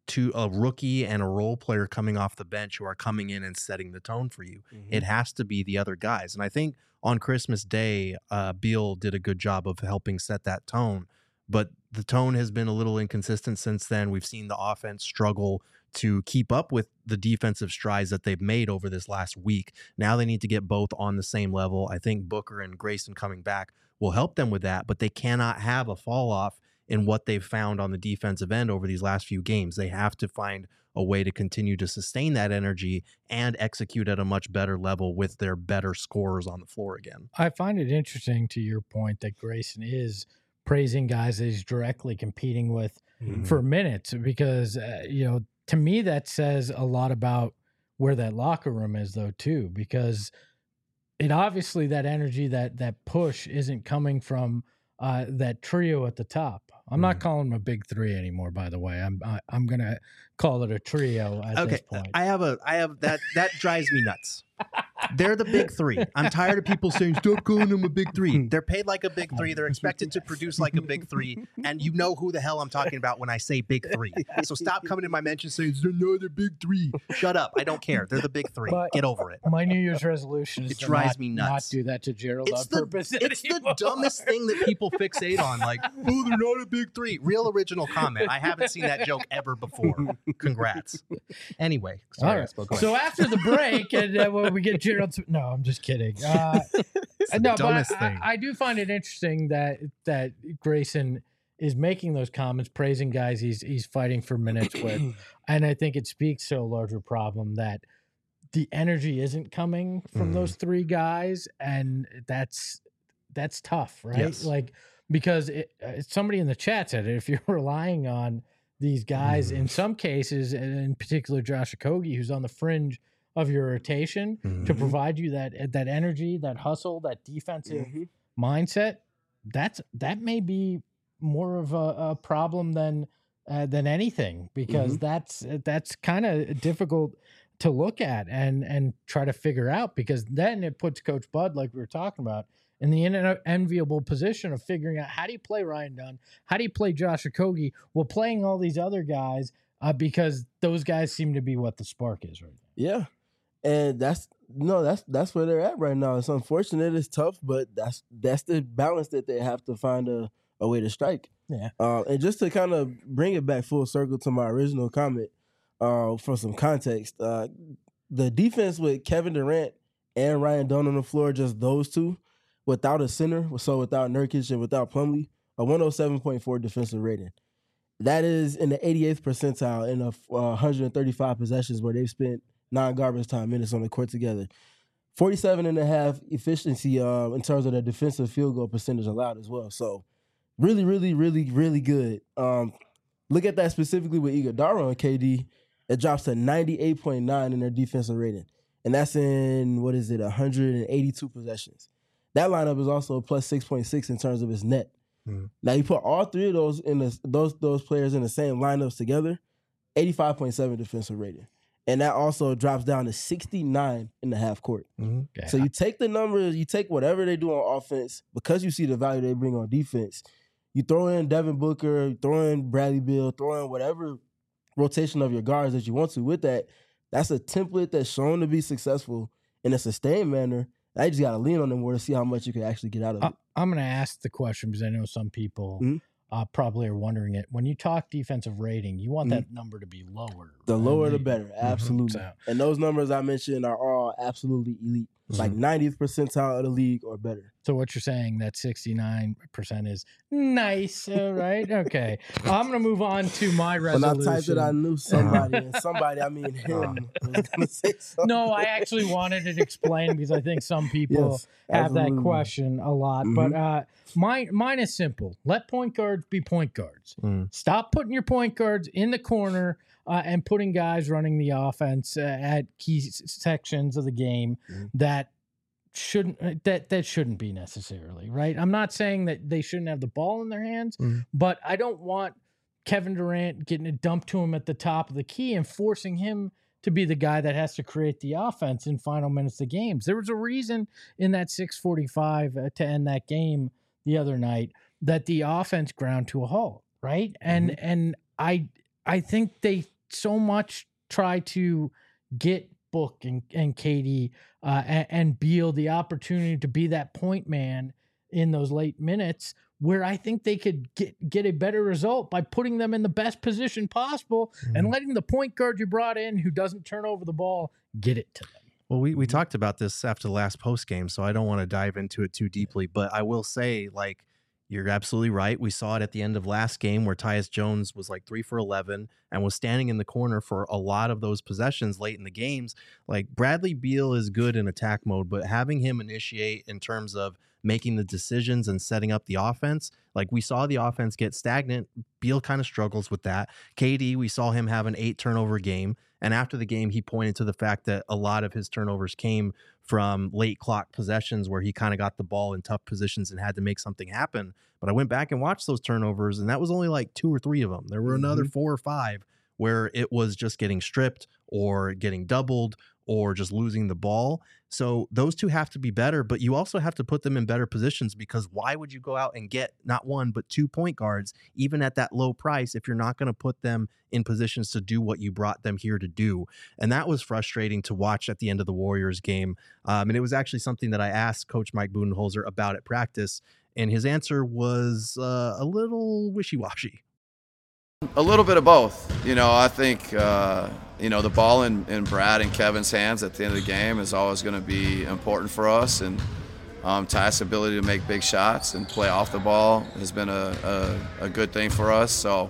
a rookie and a role player coming off the bench who are coming in and setting the tone for you. It has to be the other guys. And I think on Christmas Day, Beal did a good job of helping set that tone. But the tone has been a little inconsistent since then. We've seen the offense struggle to keep up with the defensive strides that they've made over this last week. Now they need to get both on the same level. I think Booker and Grayson coming back will help them with that, but they cannot have a fall off in what they've found on the defensive end over these last few games. They have to find a way to continue to sustain that energy and execute at a much better level with their better scorers on the floor again. I find it interesting, to your point, that Grayson is praising guys that he's directly competing with for minutes, because to me that says a lot about where that locker room is, though, too, because it obviously, that energy, that push isn't coming from that trio at the top. I'm not calling them a big three anymore, by the way. I'm gonna call it a trio at this point. I have that drives me nuts. They're the big three. I'm tired of people saying, stop calling them a big three. They're paid like a big three. They're expected to produce like a big three. And you know who the hell I'm talking about when I say big three. So stop coming in my mention saying, they're another big three. Shut up. I don't care. They're the big three. But get over it. My New Year's resolution is it drives me nuts. Not do that to Gerald on purpose. It's the dumbest thing that people fixate on. Like, oh, they're not a big three. Real original comment. I haven't seen that joke ever before. Congrats. Anyway. Sorry, all right. I spoke away. So after the break, and when we get Gerald to, no, I'm just kidding. No, but I do find it interesting that Grayson is making those comments, praising guys he's fighting for minutes with, and I think it speaks to a larger problem that the energy isn't coming from those three guys, and that's tough, right? Yes. Like, because somebody in the chat said it, if you're relying on these guys in some cases, and in particular Josh Okogie, who's on the fringe of your rotation, to provide you that energy, that hustle, that defensive mindset, that may be more of a problem than anything, because that's kind of difficult to look at and try to figure out, because then it puts Coach Bud, like we were talking about, in the enviable position of figuring out, how do you play Ryan Dunn? How do you play Josh Okogie while playing all these other guys? Because those guys seem to be what the spark is right now. Yeah. And that's where they're at right now. It's unfortunate, it's tough, but that's the balance that they have to find a way to strike. Yeah. And just to kind of bring it back full circle to my original comment, for some context, the defense with Kevin Durant and Ryan Dunn on the floor, just those two, without a center, so without Nurkic and without Plumlee, a 107.4 defensive rating. That is in the 88th percentile in 135 possessions where they've spent non-garbage time minutes on the court together. 47.5 efficiency in terms of their defensive field goal percentage allowed as well. So really, really, really, really good. Look at that specifically with Iguodala and KD. It drops to 98.9 in their defensive rating. And that's in, 182 possessions. That lineup is also a plus 6.6 in terms of its net. Now you put all three of those in those players in the same lineups together, 85.7 defensive rating. And that also drops down to 69 in the half court. Okay. So you take the numbers, you take whatever they do on offense, because you see the value they bring on defense, you throw in Devin Booker, you throw in Bradley Beal, throw in whatever rotation of your guards that you want to with that. That's a template that's shown to be successful in a sustained manner. I just got to lean on them more to see how much you can actually get out of it. I'm going to ask the question because I know some people probably are wondering it. When you talk defensive rating, you want that number to be lower. The lower the better, absolutely. And those numbers I mentioned are all absolutely elite, like 90th percentile of the league or better. So what you're saying, that 69% is nice, right? Okay. I'm going to move on to my resolution. When I typed it, I knew somebody, and somebody, I mean him, was going to say something. No, I actually wanted it explained because I think some people have that question a lot. But mine is simple. Let point guards be point guards. Stop putting your point guards in the corner and putting guys running the offense at key sections of the game that shouldn't be necessarily, right? I'm not saying that they shouldn't have the ball in their hands, but I don't want Kevin Durant getting it dumped to him at the top of the key and forcing him to be the guy that has to create the offense in final minutes of games. There was a reason in that 6:45 to end that game the other night that the offense ground to a halt, right? And I think they so much try to get Book and KD and Beal the opportunity to be that point man in those late minutes, where I think they could get a better result by putting them in the best position possible and letting the point guard you brought in who doesn't turn over the ball get it to them. Well, we talked about this after the last post game, so I don't want to dive into it too deeply, but I will say, like, you're absolutely right. We saw it at the end of last game where Tyus Jones was like 3 for 11 and was standing in the corner for a lot of those possessions late in the games. Like, Bradley Beal is good in attack mode, but having him initiate in terms of making the decisions and setting up the offense, like we saw the offense get stagnant. Beal kind of struggles with that. KD, we saw him have an 8 turnover game. And after the game, he pointed to the fact that a lot of his turnovers came from late clock possessions where he kind of got the ball in tough positions and had to make something happen. But I went back and watched those turnovers, and that was only like 2 or 3 of them. There were another 4 or 5 where it was just getting stripped or getting doubled or just losing the ball. So those two have to be better, but you also have to put them in better positions, because why would you go out and get not 1, but 2 point guards, even at that low price, if you're not going to put them in positions to do what you brought them here to do? And that was frustrating to watch at the end of the Warriors game. And it was actually something that I asked Coach Mike Budenholzer about at practice, and his answer was a little wishy-washy. A little bit of both. I think, the ball in Brad and Kevin's hands at the end of the game is always going to be important for us. And Tyus' ability to make big shots and play off the ball has been a good thing for us. So,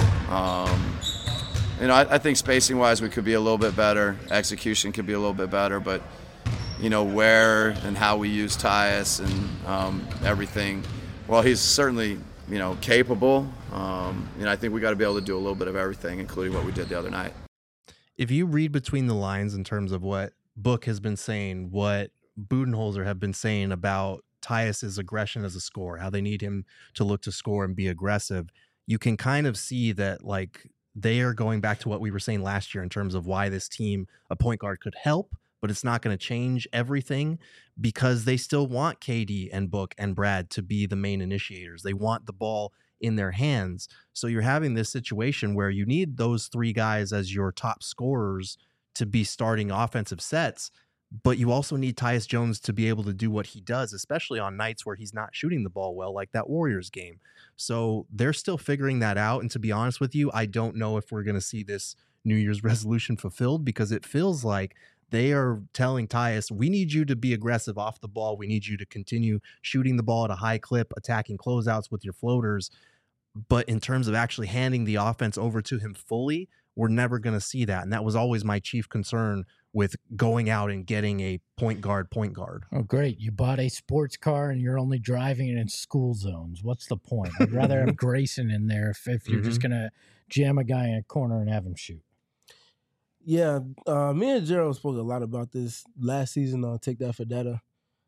I think spacing-wise we could be a little bit better. Execution could be a little bit better. But, where and how we use Tyus and everything, well, he's certainly – capable. I think we got to be able to do a little bit of everything, including what we did the other night. If you read between the lines in terms of what Book has been saying, what Budenholzer have been saying about Tyus's aggression as a scorer, how they need him to look to score and be aggressive, you can kind of see that, like, they are going back to what we were saying last year in terms of why this team, a point guard could help, but it's not going to change everything, because they still want KD and Book and Brad to be the main initiators. They want the ball in their hands. So you're having this situation where you need those 3 guys as your top scorers to be starting offensive sets, but you also need Tyus Jones to be able to do what he does, especially on nights where he's not shooting the ball well, like that Warriors game. So they're still figuring that out. And to be honest with you, I don't know if we're going to see this New Year's resolution fulfilled, because it feels like they are telling Tyus, we need you to be aggressive off the ball. We need you to continue shooting the ball at a high clip, attacking closeouts with your floaters. But in terms of actually handing the offense over to him fully, we're never going to see that. And that was always my chief concern with going out and getting a point guard. Oh, great. You bought a sports car and you're only driving it in school zones. What's the point? I'd rather have Grayson in there if you're just going to jam a guy in a corner and have him shoot. Yeah, me and Gerald spoke a lot about this last season on Take That for Data.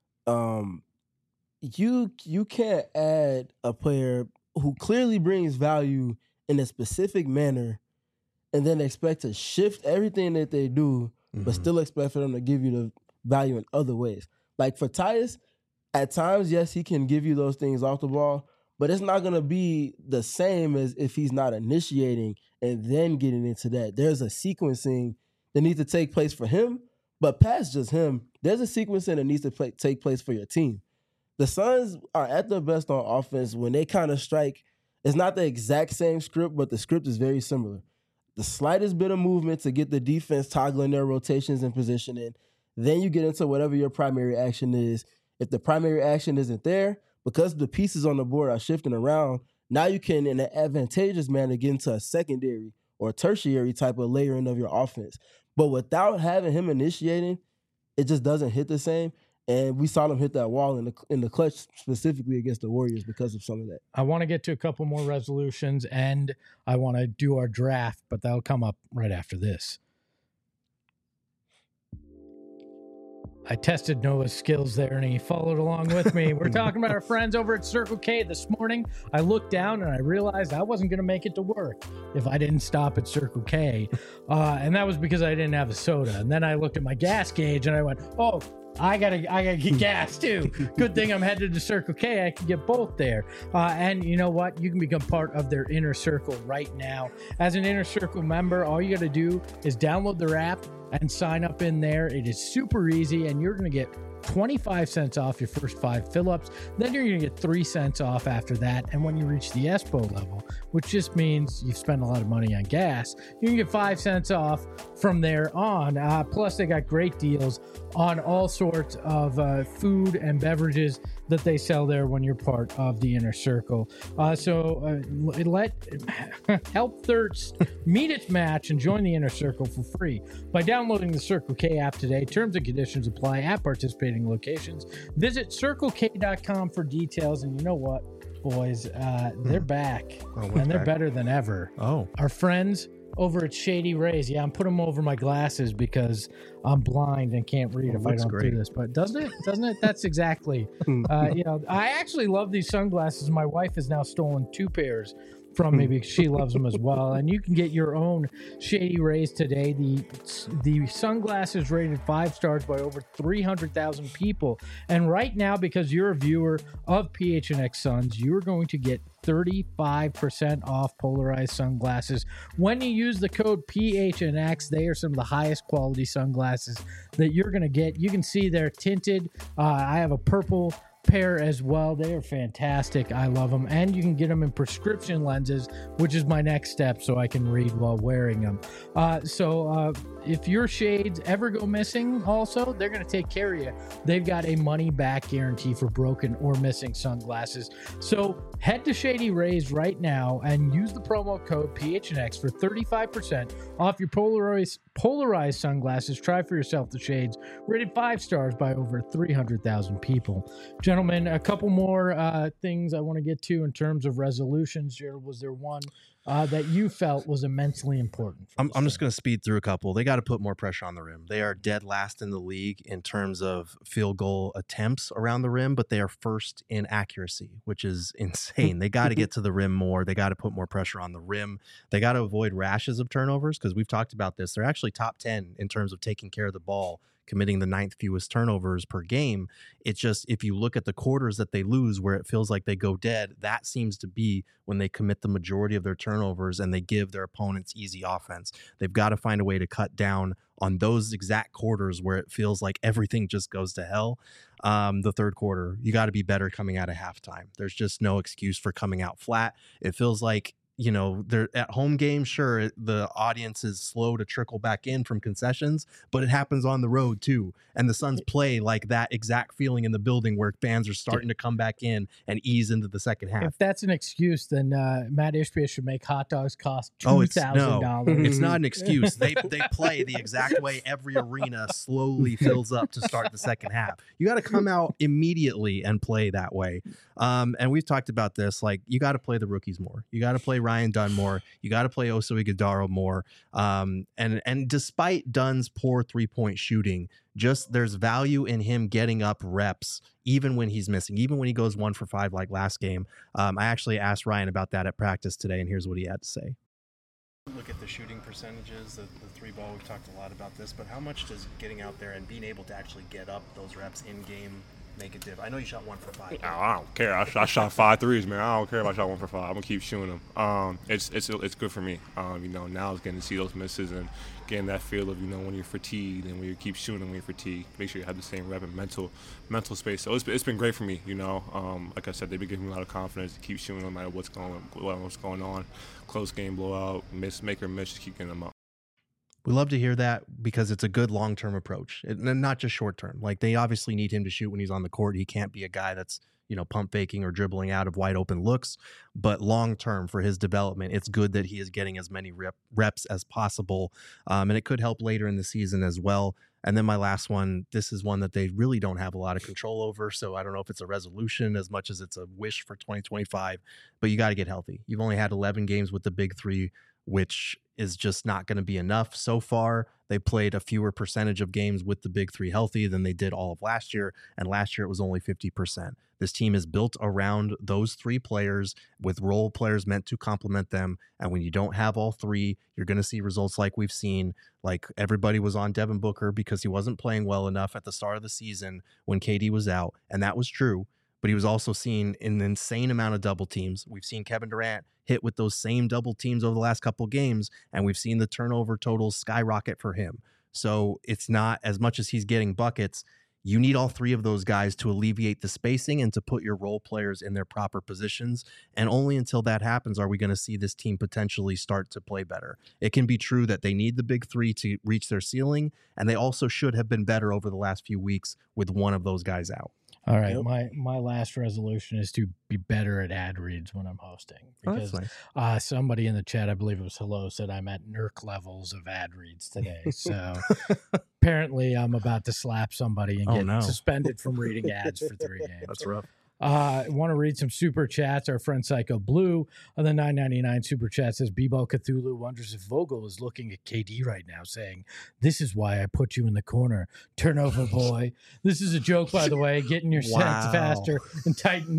You can't add a player who clearly brings value in a specific manner and then expect to shift everything that they do, but still expect for them to give you the value in other ways. Like for Tyus, at times, yes, he can give you those things off the ball, but it's not going to be the same as if he's not initiating and then getting into that. There's a sequencing that needs to take place for him, but past just him, there's a sequencing that needs to take place for your team. The Suns are at their best on offense when they kind of strike. It's not the exact same script, but the script is very similar. The slightest bit of movement to get the defense toggling their rotations and positioning. Then you get into whatever your primary action is. If the primary action isn't there, because the pieces on the board are shifting around, now you can, in an advantageous manner, get into a secondary or tertiary type of layering of your offense. But without having him initiating, it just doesn't hit the same. And we saw them hit that wall in the clutch, specifically against the Warriors, because of some of that. I want to get to a couple more resolutions, and I want to do our draft, but that'll come up right after this. I tested Noah's skills there and he followed along with me. We're talking about our friends over at Circle K. This morning, I looked down and I realized I wasn't going to make it to work if I didn't stop at Circle K. And that was because I didn't have a soda. And then I looked at my gas gauge and I went, oh, I gotta get gas too. Good thing I'm headed to Circle K. I can get both there. And you know what? You can become part of their Inner Circle right now. As an Inner Circle member, all you gotta do is download their app and sign up in there. It is super easy, and you're gonna get 25 cents off your first 5 fill-ups. Then you're going to get 3 cents off after that. And when you reach the ESPO level, which just means you spend a lot of money on gas, you can get 5 cents off from there on. Plus, they got great deals on all sorts of food and beverages that they sell there when you're part of the Inner Circle. Let help thirst meet its match and join the Inner Circle for free by downloading the Circle K app today. Terms and conditions apply at participating locations. Visit CircleK.com for details. And you know what, boys? They're back, and they're better than ever. Oh, our friends over at Shady Rays. Yeah, I'm putting them over my glasses because I'm blind and can't read if I don't do this. But doesn't it? That's exactly. I actually love these sunglasses. My wife has now stolen 2 pairs from me because she loves them as well. And you can get your own Shady Rays today. The sunglasses rated 5 stars by over 300,000 people. And right now, because you're a viewer of PHNX Suns, you're going to get 35% off polarized sunglasses when you use the code PHNX. They are some of the highest quality sunglasses that you're going to get. You can see they're tinted. I have a purple pair as well. They are fantastic. I love them. And you can get them in prescription lenses, which is my next step so I can read while wearing them. If your shades ever go missing, also, they're going to take care of you. They've got a money back guarantee for broken or missing sunglasses. So head to Shady Rays right now and use the promo code PHNX for 35% off your polarized sunglasses. Try for yourself the shades rated 5 stars by over 300,000 people. Gentlemen, a couple more things I want to get to in terms of resolutions. Was there one that you felt was immensely important? I'm just going to speed through a couple. They got to put more pressure on the rim. They are dead last in the league in terms of field goal attempts around the rim, but they are first in accuracy, which is insane. They got to get to the rim more. They got to put more pressure on the rim. They got to avoid rashes of turnovers because we've talked about this. They're actually top 10 in terms of taking care of the ball, committing the 9th fewest turnovers per game. It's just, if you look at the quarters that they lose where it feels like they go dead, that seems to be when they commit the majority of their turnovers and they give their opponents easy offense. They've got to find a way to cut down on those exact quarters where it feels like everything just goes to hell. The third quarter, you got to be better coming out of halftime. There's just no excuse for coming out flat. It feels like, they're at home games. Sure, the audience is slow to trickle back in from concessions, but it happens on the road too. And the Suns play like that exact feeling in the building where fans are starting to come back in and ease into the second half. If that's an excuse, then Matt Ishbia should make hot dogs cost $2,000. It's not an excuse. They play the exact way every arena slowly fills up to start the second half. You got to come out immediately and play that way. And we've talked about this. Like, you got to play the rookies more. You got to play Ryan Dunn more. You got to play Oso Ighodaro more. And despite Dunn's poor 3-point shooting, just there's value in him getting up reps even when he's missing, even when he goes 1 for 5 like last game. I actually asked Ryan about that at practice today, and here's what he had to say. Look at the shooting percentages, the 3 ball. We've talked a lot about this, but how much does getting out there and being able to actually get up those reps in game make a difference? I know you shot 1 for 5. I don't care. I shot 5 threes, man. I don't care if I shot 1 for 5. I'm gonna keep shooting them. It's good for me. Now it's getting to see those misses and getting that feel of when you're fatigued and when you keep shooting when you're fatigued. Make sure you have the same rep and mental space. So it's been great for me. Like I said, they've been giving me a lot of confidence to keep shooting no matter what's going on. Close game, blowout, make or miss, just keep getting them up. We love to hear that because it's a good long-term approach, and not just short-term. Like, they obviously need him to shoot when he's on the court. He can't be a guy that's, pump faking or dribbling out of wide open looks. But long-term for his development, it's good that he is getting as many reps as possible. And it could help later in the season as well. And then my last one, this is one that they really don't have a lot of control over. So I don't know if it's a resolution as much as it's a wish for 2025, but you got to get healthy. You've only had 11 games with the big three which is just not going to be enough. So far, they played a fewer percentage of games with the big three healthy than they did all of last year. And last year it was only 50%. This team is built around those three players with role players meant to complement them. And when you don't have all three, you're going to see results like we've seen. Like everybody was on Devin Booker because he wasn't playing well enough at the start of the season when KD was out. And that was true. But he was also seen in an insane amount of double teams. We've seen Kevin Durant hit with those same double teams over the last couple of games, and we've seen the turnover totals skyrocket for him. So it's not as much as he's getting buckets. You need all three of those guys to alleviate the spacing and to put your role players in their proper positions. And only until that happens are we going to see this team potentially start to play better. It can be true that they need the big three to reach their ceiling, and they also should have been better over the last few weeks with one of those guys out. All right, my last resolution is to be better at ad reads when I'm hosting. Because nice. Somebody in the chat, I believe it was Hello, said I'm at NERC levels of ad reads today. So apparently I'm about to slap somebody and get suspended from reading ads for 3 games. That's rough. I want to read some super chats. Our friend Psycho Blue on the $9.99 super chat says, Bebo Cthulhu wonders if Vogel is looking at KD right now saying, this is why I put you in the corner. Turnover boy. This is a joke, by the way. Getting your sets faster and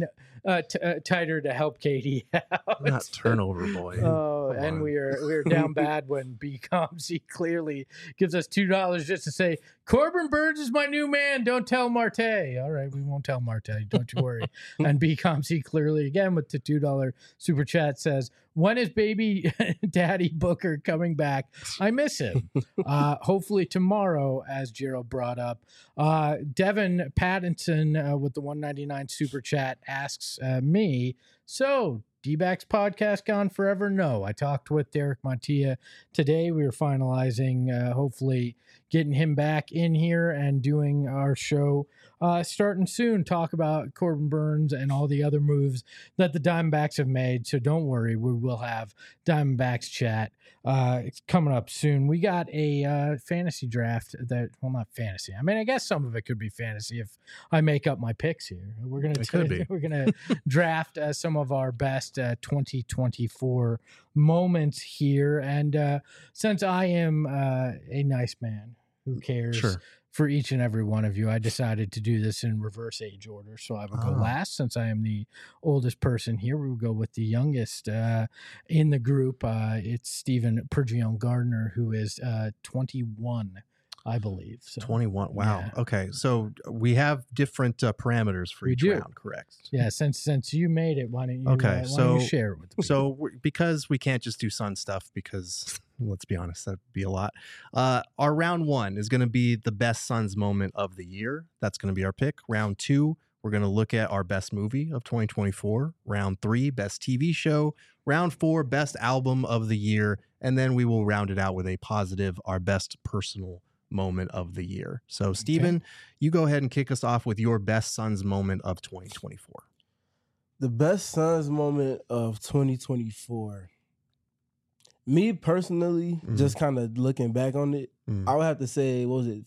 tighter to help KD out. Not turnover boy. Oh, and we are down bad when BComC clearly gives us $2 just to say, Corbin Burns is my new man. Don't tell Marte. All right, we won't tell Marte. Don't you worry. And BComC clearly again with the $2 super chat says, when is baby daddy Booker coming back? I miss him. Hopefully tomorrow, as Gerald brought up. Devin Pattinson with the $1.99 super chat asks me, so D-backs podcast gone forever? No. I talked with Derek Montilla today. We were finalizing, hopefully getting him back in here and doing our show starting soon. Talk about Corbin Burns and all the other moves that the Diamondbacks have made. So don't worry, we will have Diamondbacks chat. It's coming up soon. We got a fantasy draft that, well, not fantasy. I mean, I guess some of it could be fantasy if I make up my picks here. We're gonna draft some of our best 2024 moments here. And since I am a nice man who cares for each and every one of you, I decided to do this in reverse age order. So I will go last since I am the oldest person here. We will go with the youngest in the group. It's Stephen Pergion Gardner, who is 21. I believe. So, 21. Wow. Yeah. Okay. So we have different parameters for each round, correct? Yeah. Since you made it, why don't you share it with me? So because we can't just do Sun stuff because let's be honest, that'd be a lot. Our round one is going to be the best Suns moment of the year. That's going to be our pick. Round two, we're going to look at our best movie of 2024. Round three, best TV show. Round four, best album of the year. And then we will round it out with a positive, our best personal moment of the year. So Steven, you go ahead and kick us off with your best Suns moment of 2024. The best Suns moment of 2024. Me personally, just kind of looking back on it, I would have to say, what was it,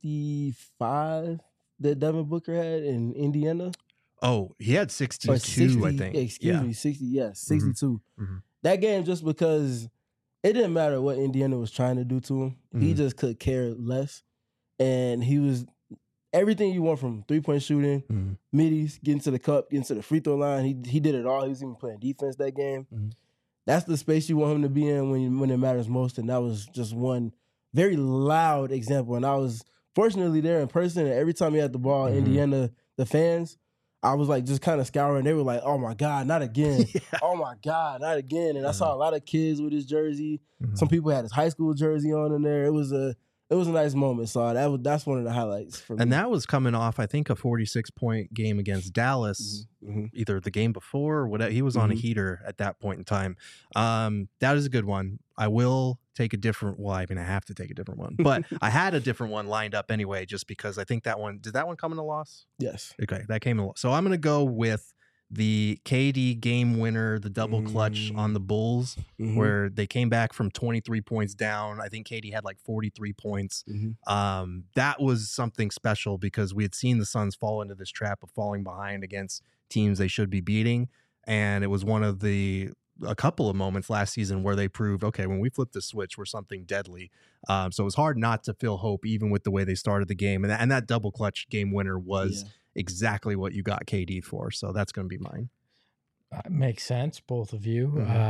55 that Devin Booker had in Indiana? Oh, he had 62, 60, I think. Excuse me, 60, yes, 62. That game, just because it didn't matter what Indiana was trying to do to him. He just could care less. And he was everything you want from three-point shooting, middies, getting to the cup, getting to the free throw line. He did it all. He was even playing defense that game. That's the space you want him to be in when it matters most. And that was just one very loud example. And I was fortunately there in person. And every time he had the ball, Indiana, the fans, I was like just kind of scouring. They were like, oh my God, not again. Oh my God, not again. And I saw a lot of kids with his jersey. Some people had his high school jersey on in there. It was a nice moment. So that's one of the highlights for me. And that was coming off, I think, a 46-point game against Dallas, either the game before or whatever. He was on a heater at that point in time. That is a good one. I will take a different, I have to take a different one. But I had a different one lined up anyway, just because I think that one, did that one come in a loss? Yes. Okay, that came in a loss. So I'm going to go with the KD game winner, the double clutch on the Bulls, where they came back from 23 points down. I think KD had like 43 points. That was something special because we had seen the Suns fall into this trap of falling behind against teams they should be beating. And it was one of the a couple of moments last season where they proved, okay, when we flip the switch, we're something deadly. So it was hard not to feel hope, even with the way they started the game. And that double clutch game winner was exactly what you got KD for. So that's going to be mine. Makes sense, both of you.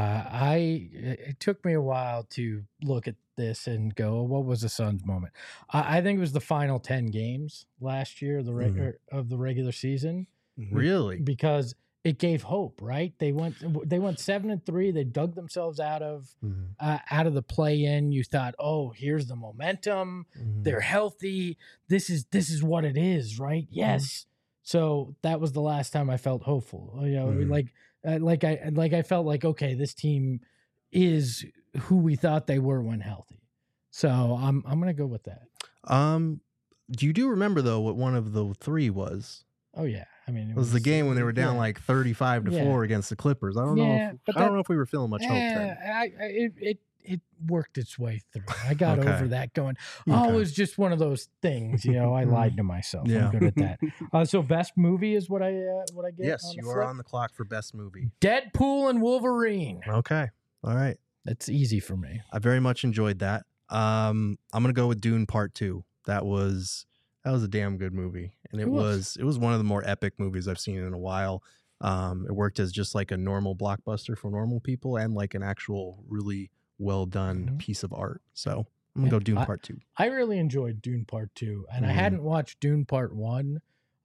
It took me a while to look at this and go, what was the Suns' moment? I think it was the final 10 games last year of the regular season. Really? Because it gave hope, right? They went 7-3. They dug themselves out of the play-in. You thought, oh, here's the momentum. They're healthy. This is what it is, right? Yes. So that was the last time I felt hopeful. You know, I felt like, okay, this team is who we thought they were when healthy. So I'm gonna go with that. You do remember though what one of the three was? Oh yeah, I mean it was the game when they were down like 35-4 against the Clippers. I don't know. I don't know if we were feeling much hope then. It worked its way through. I got over that going, it was just one of those things, you know, I lied to myself. I'm good at that. So best movie is what I get? Yes, you are on the clock for best movie. Deadpool and Wolverine. Okay. All right. That's easy for me. I very much enjoyed that. I'm going to go with Dune Part 2. That was a damn good movie. And it was one of the more epic movies I've seen in a while. It worked as just like a normal blockbuster for normal people and like an actual really well done piece of art. So I'm gonna go Dune Part 2. I really enjoyed Dune Part 2, and I hadn't watched Dune Part 1.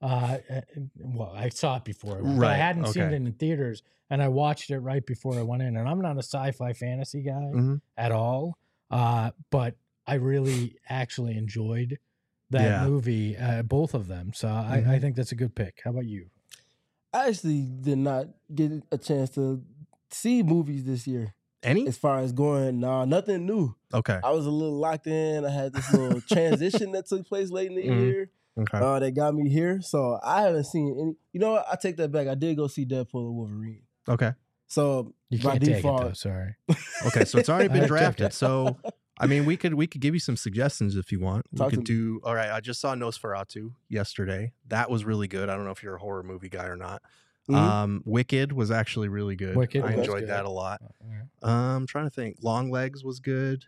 Well, I saw it before, but I hadn't seen it in theaters, and I watched it right before I went in. And I'm not a sci-fi fantasy guy at all, but I really actually enjoyed that movie, both of them. So I think that's a good pick. How about you? I actually did not get a chance to see movies this year. Any? As far as going, nothing new. Okay. I was a little locked in. I had this little transition that took place late in the year. Okay. That got me here. So I haven't seen any. You know what? I take that back. I did go see Deadpool and Wolverine. Okay. So you can't take it though, sorry. Okay, so it's already been drafted. So I mean, we could give you some suggestions if you want. We could do. All right. I just saw Nosferatu yesterday. That was really good. I don't know if you're a horror movie guy or not. Wicked was actually really good. I enjoyed that a lot. I'm trying to think. Longlegs was good.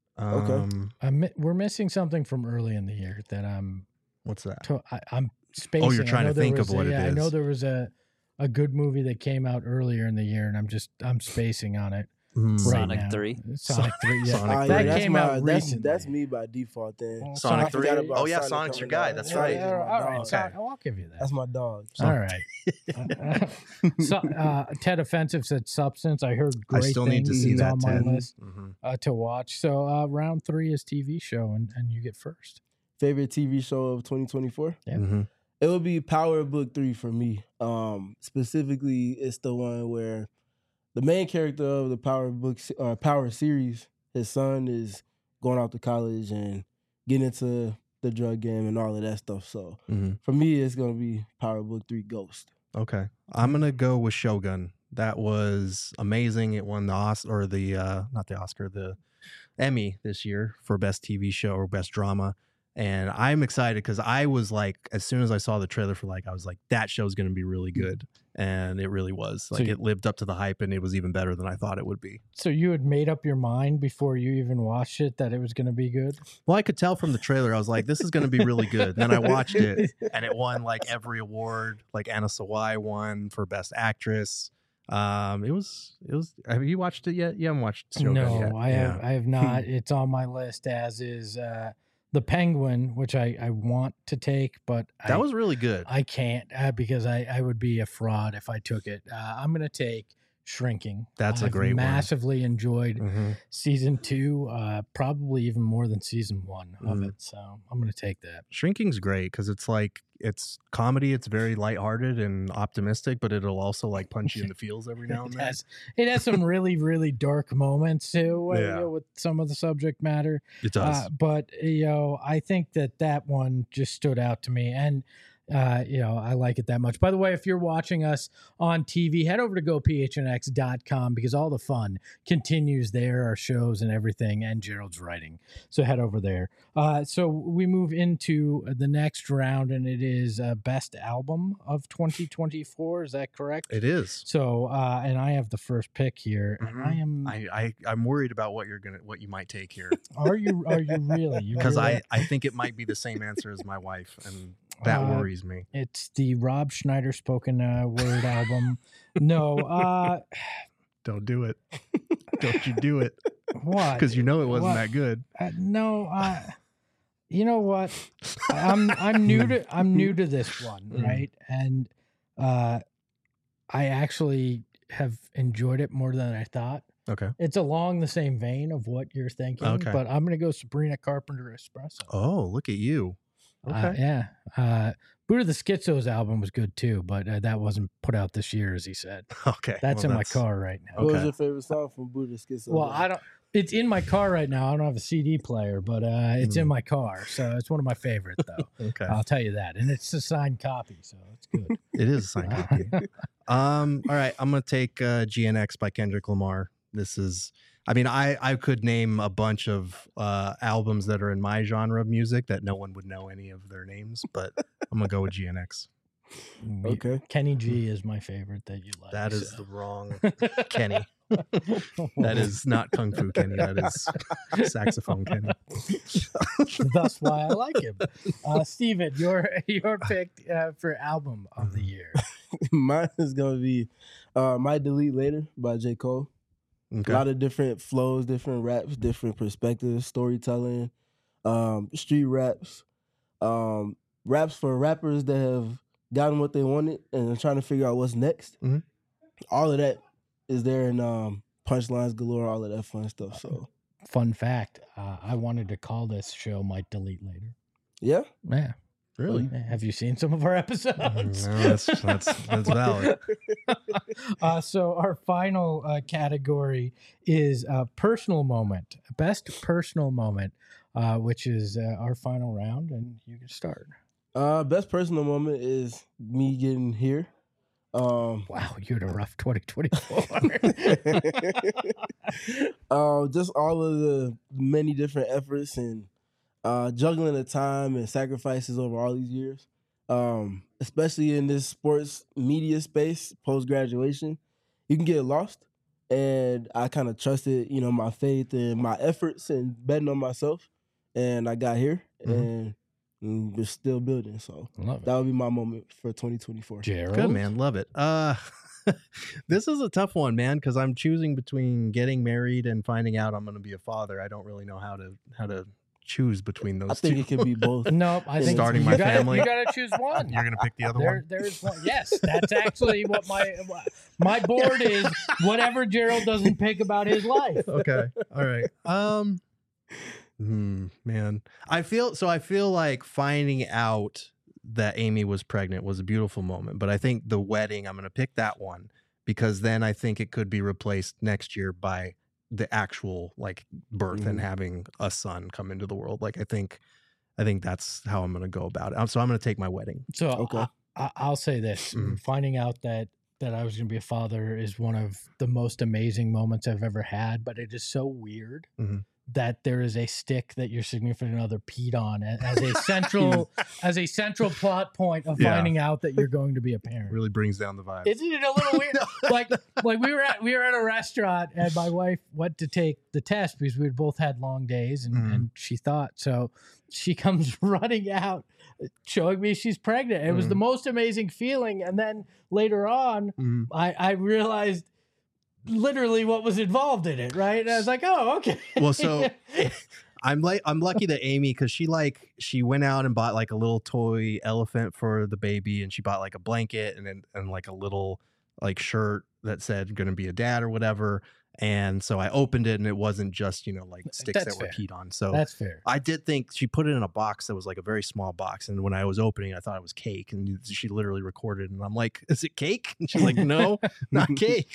We're missing something from early in the year that I'm. What's that? I'm spacing. Oh, you're trying to think of what it is. I know there was a good movie that came out earlier in the year, and I'm spacing on it. Sonic 3. Sonic 3. Yeah. Sonic 3. That came out recently. That's me by default then. Sonic 3. Oh yeah, Sonic's your guy. That's right. All right. Okay. I'll give you that. That's my dog. All right. So, Ted Offensive said Substance. I heard great things. I still need to see that, on Ted. my list to watch. So round 3 is TV show, and you get first. Favorite TV show of 2024? Yeah. It would be Power Book 3 for me. Specifically, it's the one where the main character of the Power series, his son is going off to college and getting into the drug game and all of that stuff. So for me, it's going to be Power Book 3 Ghost. Okay. I'm going to go with Shogun. That was amazing. It won the Oscar, or not the Oscar, the Emmy this year for Best TV Show or Best Drama. And I'm excited because I was like, as soon as I saw the trailer for I was like, that show's going to be really good. And it really was. It lived up to the hype, and it was even better than I thought it would be. So you had made up your mind before you even watched it that it was going to be good? Well, I could tell from the trailer. I was like, this is going to be really good. And then I watched it, and it won every award. Anna Sawai won for Best Actress. It was. Have you watched it yet? You haven't watched Shogun yet. No, I have not. It's on my list, as is The Penguin, which I want to take, but that was really good. I can't because I would be a fraud if I took it. I'm going to take Shrinking. That's a great one. Massively enjoyed season 2, probably even more than season 1 of it. So I'm going to take that. Shrinking's great because it's comedy. It's very lighthearted and optimistic, but it'll also punch you in the feels every now and then. It has some really, really dark moments too with some of the subject matter. It does. But I think that one just stood out to me. And I like it that much. By the way, if you're watching us on TV, head over to gophnx.com because all the fun continues there, our shows and everything, and Gerald's writing. So head over there. So we move into the next round, and it is Best Album of 2024. Is that correct? It is. So, and I have the first pick here, and I'm worried about what you might take here. Are you really? Because I think it might be the same answer as my wife, and that worries me. It's the Rob Schneider spoken word album. No, don't do it. Don't you do it? Why? Because you know it wasn't that good. No, you know what? I'm new to this one, right? And I actually have enjoyed it more than I thought. Okay. It's along the same vein of what you're thinking, but I'm going to go Sabrina Carpenter Espresso. Oh, look at you. Okay. Yeah. Buddha the Schizo's album was good too, but that wasn't put out this year, as he said. Okay. That's in my car right now. What was your favorite song from Buddha Schizo? Well, it's in my car right now. I don't have a CD player, but it's in my car. So it's one of my favorites, though. Okay. I'll tell you that. And it's a signed copy, so it's good. It is a signed copy. All right. I'm going to take GNX by Kendrick Lamar. This is, I could name a bunch of albums that are in my genre of music that no one would know any of their names, but I'm going to go with GNX. Okay. Kenny G is my favorite that you like. That is the wrong Kenny. That is not Kung Fu Kenny. That is saxophone Kenny. That's why I like him. Steven, your pick for album of the year. Mine is going to be Might Delete Later by J. Cole. Okay. A lot of different flows, different raps, different perspectives, storytelling, street raps, raps for rappers that have gotten what they wanted and are trying to figure out what's next. Mm-hmm. All of that is there in punchlines galore, all of that fun stuff. So, fun fact, I wanted to call this show Might Delete Later. Yeah? Yeah. Really? Have you seen some of our episodes? No, that's valid. So our final category is personal moment, best personal moment, which is our final round, and you can start. Best personal moment is me getting here. Wow, you had a rough 2024. Just all of the many different efforts and juggling the time and sacrifices over all these years, especially in this sports media space post-graduation, you can get lost. And I kind of trusted, my faith and my efforts and betting on myself. And I got here and we're still building. So that would be my moment for 2024. Gerald? Good, man. Love it. This is a tough one, man, because I'm choosing between getting married and finding out I'm going to be a father. I don't really know how to choose between those two. I think it could be both. No, I think starting my family. You got to choose one. You're going to pick the other one? There's one. Yes, that's actually what my board is. Whatever Gerald doesn't pick about his life. Okay. All right. Man, I feel like finding out that Amy was pregnant was a beautiful moment, but I think the wedding, I'm going to pick that one because then I think it could be replaced next year by the actual birth and having a son come into the world. I think that's how I'm going to go about it. So I'm going to take my wedding. So okay. I'll say this: finding out that I was going to be a father is one of the most amazing moments I've ever had. But it is so weird that there is a stick that your significant other peed on as a central plot point of finding out that you're going to be a parent. Really brings down the vibe. Isn't it a little weird? like we were at a restaurant and my wife went to take the test because we had both had long days and she thought so. She comes running out, showing me she's pregnant. It was the most amazing feeling. And then later on, I realized literally what was involved in it, right? And I was like, oh, okay. Well, so I'm lucky that Amy, because she went out and bought a little toy elephant for the baby, and she bought a blanket and a little shirt that said gonna be a dad or whatever. And so I opened it and it wasn't just, sticks that were peed on. So that's fair. I did think she put it in a box that was a very small box. And when I was opening, I thought it was cake. And she literally recorded and I'm like, is it cake? And she's like, no, not cake.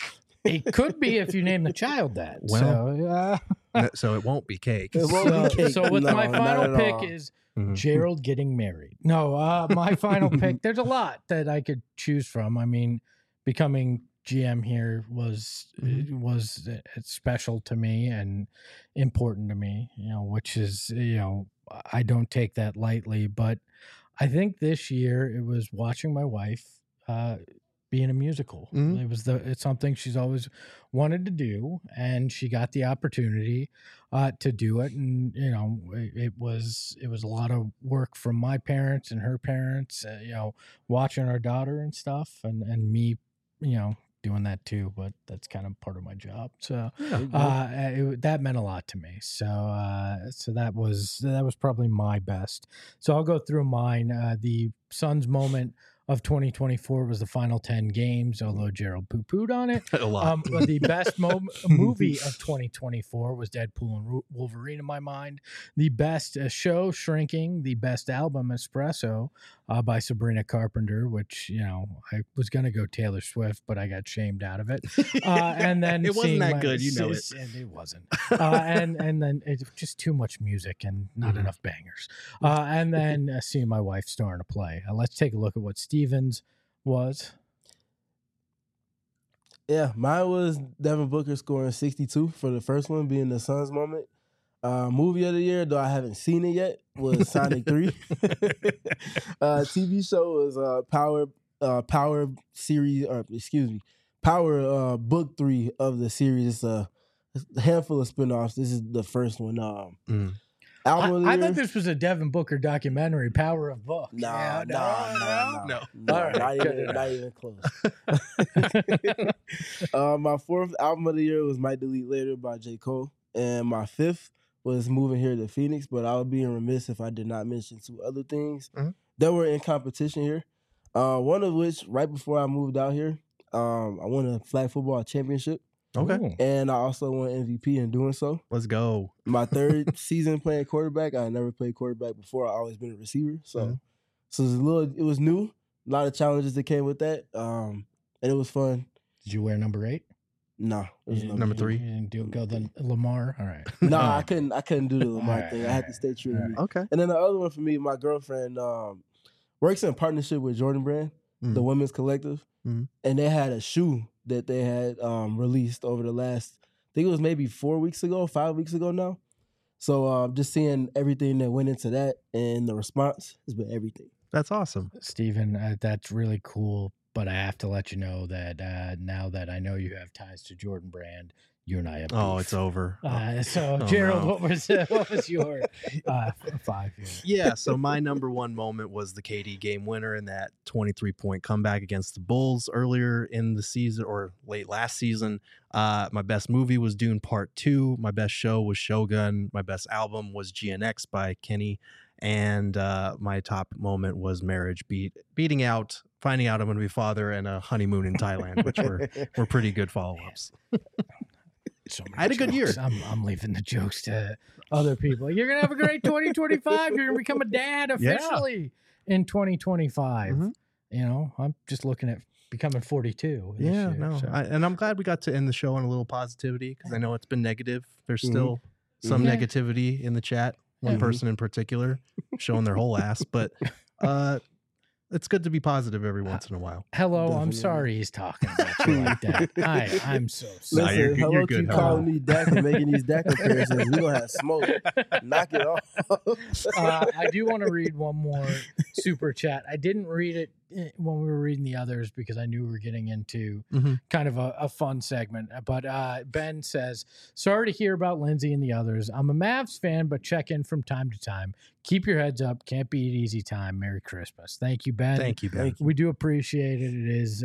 It could be if you name the child that. Well, so it won't be cake. It won't be cake. So with No, my not final at pick all. is Mhm. Gerald getting married. No, my final pick. There's a lot that I could choose from. I mean, becoming GM here was special to me and important to me. Which is I don't take that lightly. But I think this year it was watching my wife be in a musical. Mhm. It's something she's always wanted to do, and she got the opportunity to do it. And it was a lot of work from my parents and her parents. Watching our daughter and stuff, and me, doing that too. But that's kind of part of my job. So that meant a lot to me. So that was probably my best. So I'll go through mine. The Suns moment of 2024 was the final 10 games, although Gerald poo-pooed on it. A lot. But the best movie of 2024 was Deadpool and Wolverine in my mind. The best show, Shrinking. The best album, Espresso, by Sabrina Carpenter, which, I was going to go Taylor Swift, but I got shamed out of it. And then It wasn't that good, you know it. And it wasn't. And then it's just too much music and not enough bangers. And then seeing my wife star in a play. Let's take a look at what Stevens was. Yeah, mine was Devin Booker scoring 62 for the first one, being the Suns moment. Movie of the year, though I haven't seen it yet, was Sonic 3. TV show was Power series, or excuse me, Power book 3 of the series. It's a handful of spinoffs. This is the first one. Album of the I year. thought this was a Devin Booker documentary, Power of Book. No, No. All right, not even close. My fourth album of the year was Might Delete Later by J. Cole. And my fifth was Moving Here to Phoenix, but I would be remiss if I did not mention two other things that were in competition here. One of which, right before I moved out here, I won a flag football championship. Okay. Ooh. And I also won MVP in doing so. Let's go. My third season playing quarterback. I never played quarterback before. I always been a receiver. So it was new. A lot of challenges that came with that. And it was fun. Did you wear number 8? No. It was Number 3. You didn't go the Lamar? All right. No, I couldn't do the Lamar Alright, thing. I had to stay true to me. Okay. And then the other one for me, my girlfriend works in partnership with Jordan Brand, the Women's Collective. Mhm. And they had a shoe that they had released over the last, I think it was maybe 5 weeks ago now. So just seeing everything that went into that and the response has been everything. That's awesome. Steven, that's really cool. But I have to let you know that now that I know you have ties to Jordan Brand, you and I have Oh, beef. it's over. So, Oh, Gerald, no. what was your 5 years? Yeah, so my number one moment was the KD game winner in that 23-point comeback against the Bulls earlier in the season or late last season. My best movie was Dune Part 2. My best show was Shogun. My best album was GNX by Kenny. And my top moment was marriage finding out I'm going to be father and a honeymoon in Thailand, which were pretty good follow-ups. So many I had a good year. jokes. I'm leaving the jokes to other people. You're gonna have a great 2025. You're gonna become a dad officially in 2025. I'm just looking at becoming 42. this Yeah, year, no. so. And I'm glad we got to end the show on a little positivity because I know it's been negative. There's still some Yeah. negativity in the chat. One Yeah. person in particular showing their whole ass, but it's good to be positive every once in a while. Hello, I'm Definitely. sorry he's talking about you like that. I'm so Nah, sorry. you're Listen, good- hello, you're good, keep hello. calling me Dak and making these Dak comparisons. We're going to have smoke. Knock it off. I do want to read one more super chat. I didn't read it when we were reading the others because I knew we were getting into kind of a fun segment. But Ben says, sorry to hear about Lindsay and the others. I'm a Mavs fan, but check in from time to time. Keep your heads up. Can't be an easy time. Merry Christmas. Thank you, Ben. Thank you, Ben. We do appreciate it. It is,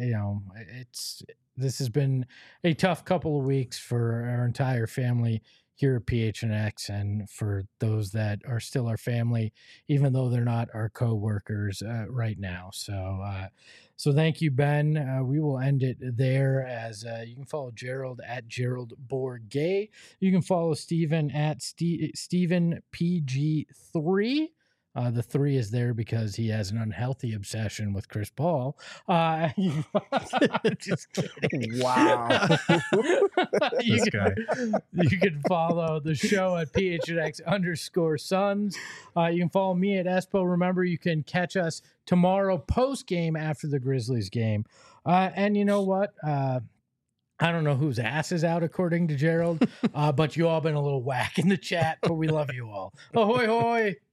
this has been a tough couple of weeks for our entire family here at PHNX and for those that are still our family, even though they're not our co-workers right now. So thank you, Ben. We will end it there as you can follow Gerald at Gerald Bourgay. You can follow Steven at Steven PG3. The 3 is there because he has an unhealthy obsession with Chris Paul. Just kidding. Wow. you can follow the show at PHNX_Suns. You can follow me at Espo. Remember, you can catch us tomorrow post game after the Grizzlies game. And you know what? I don't know whose ass is out, according to Gerald, but you all been a little whack in the chat, but we love you all. Ahoy, hoy.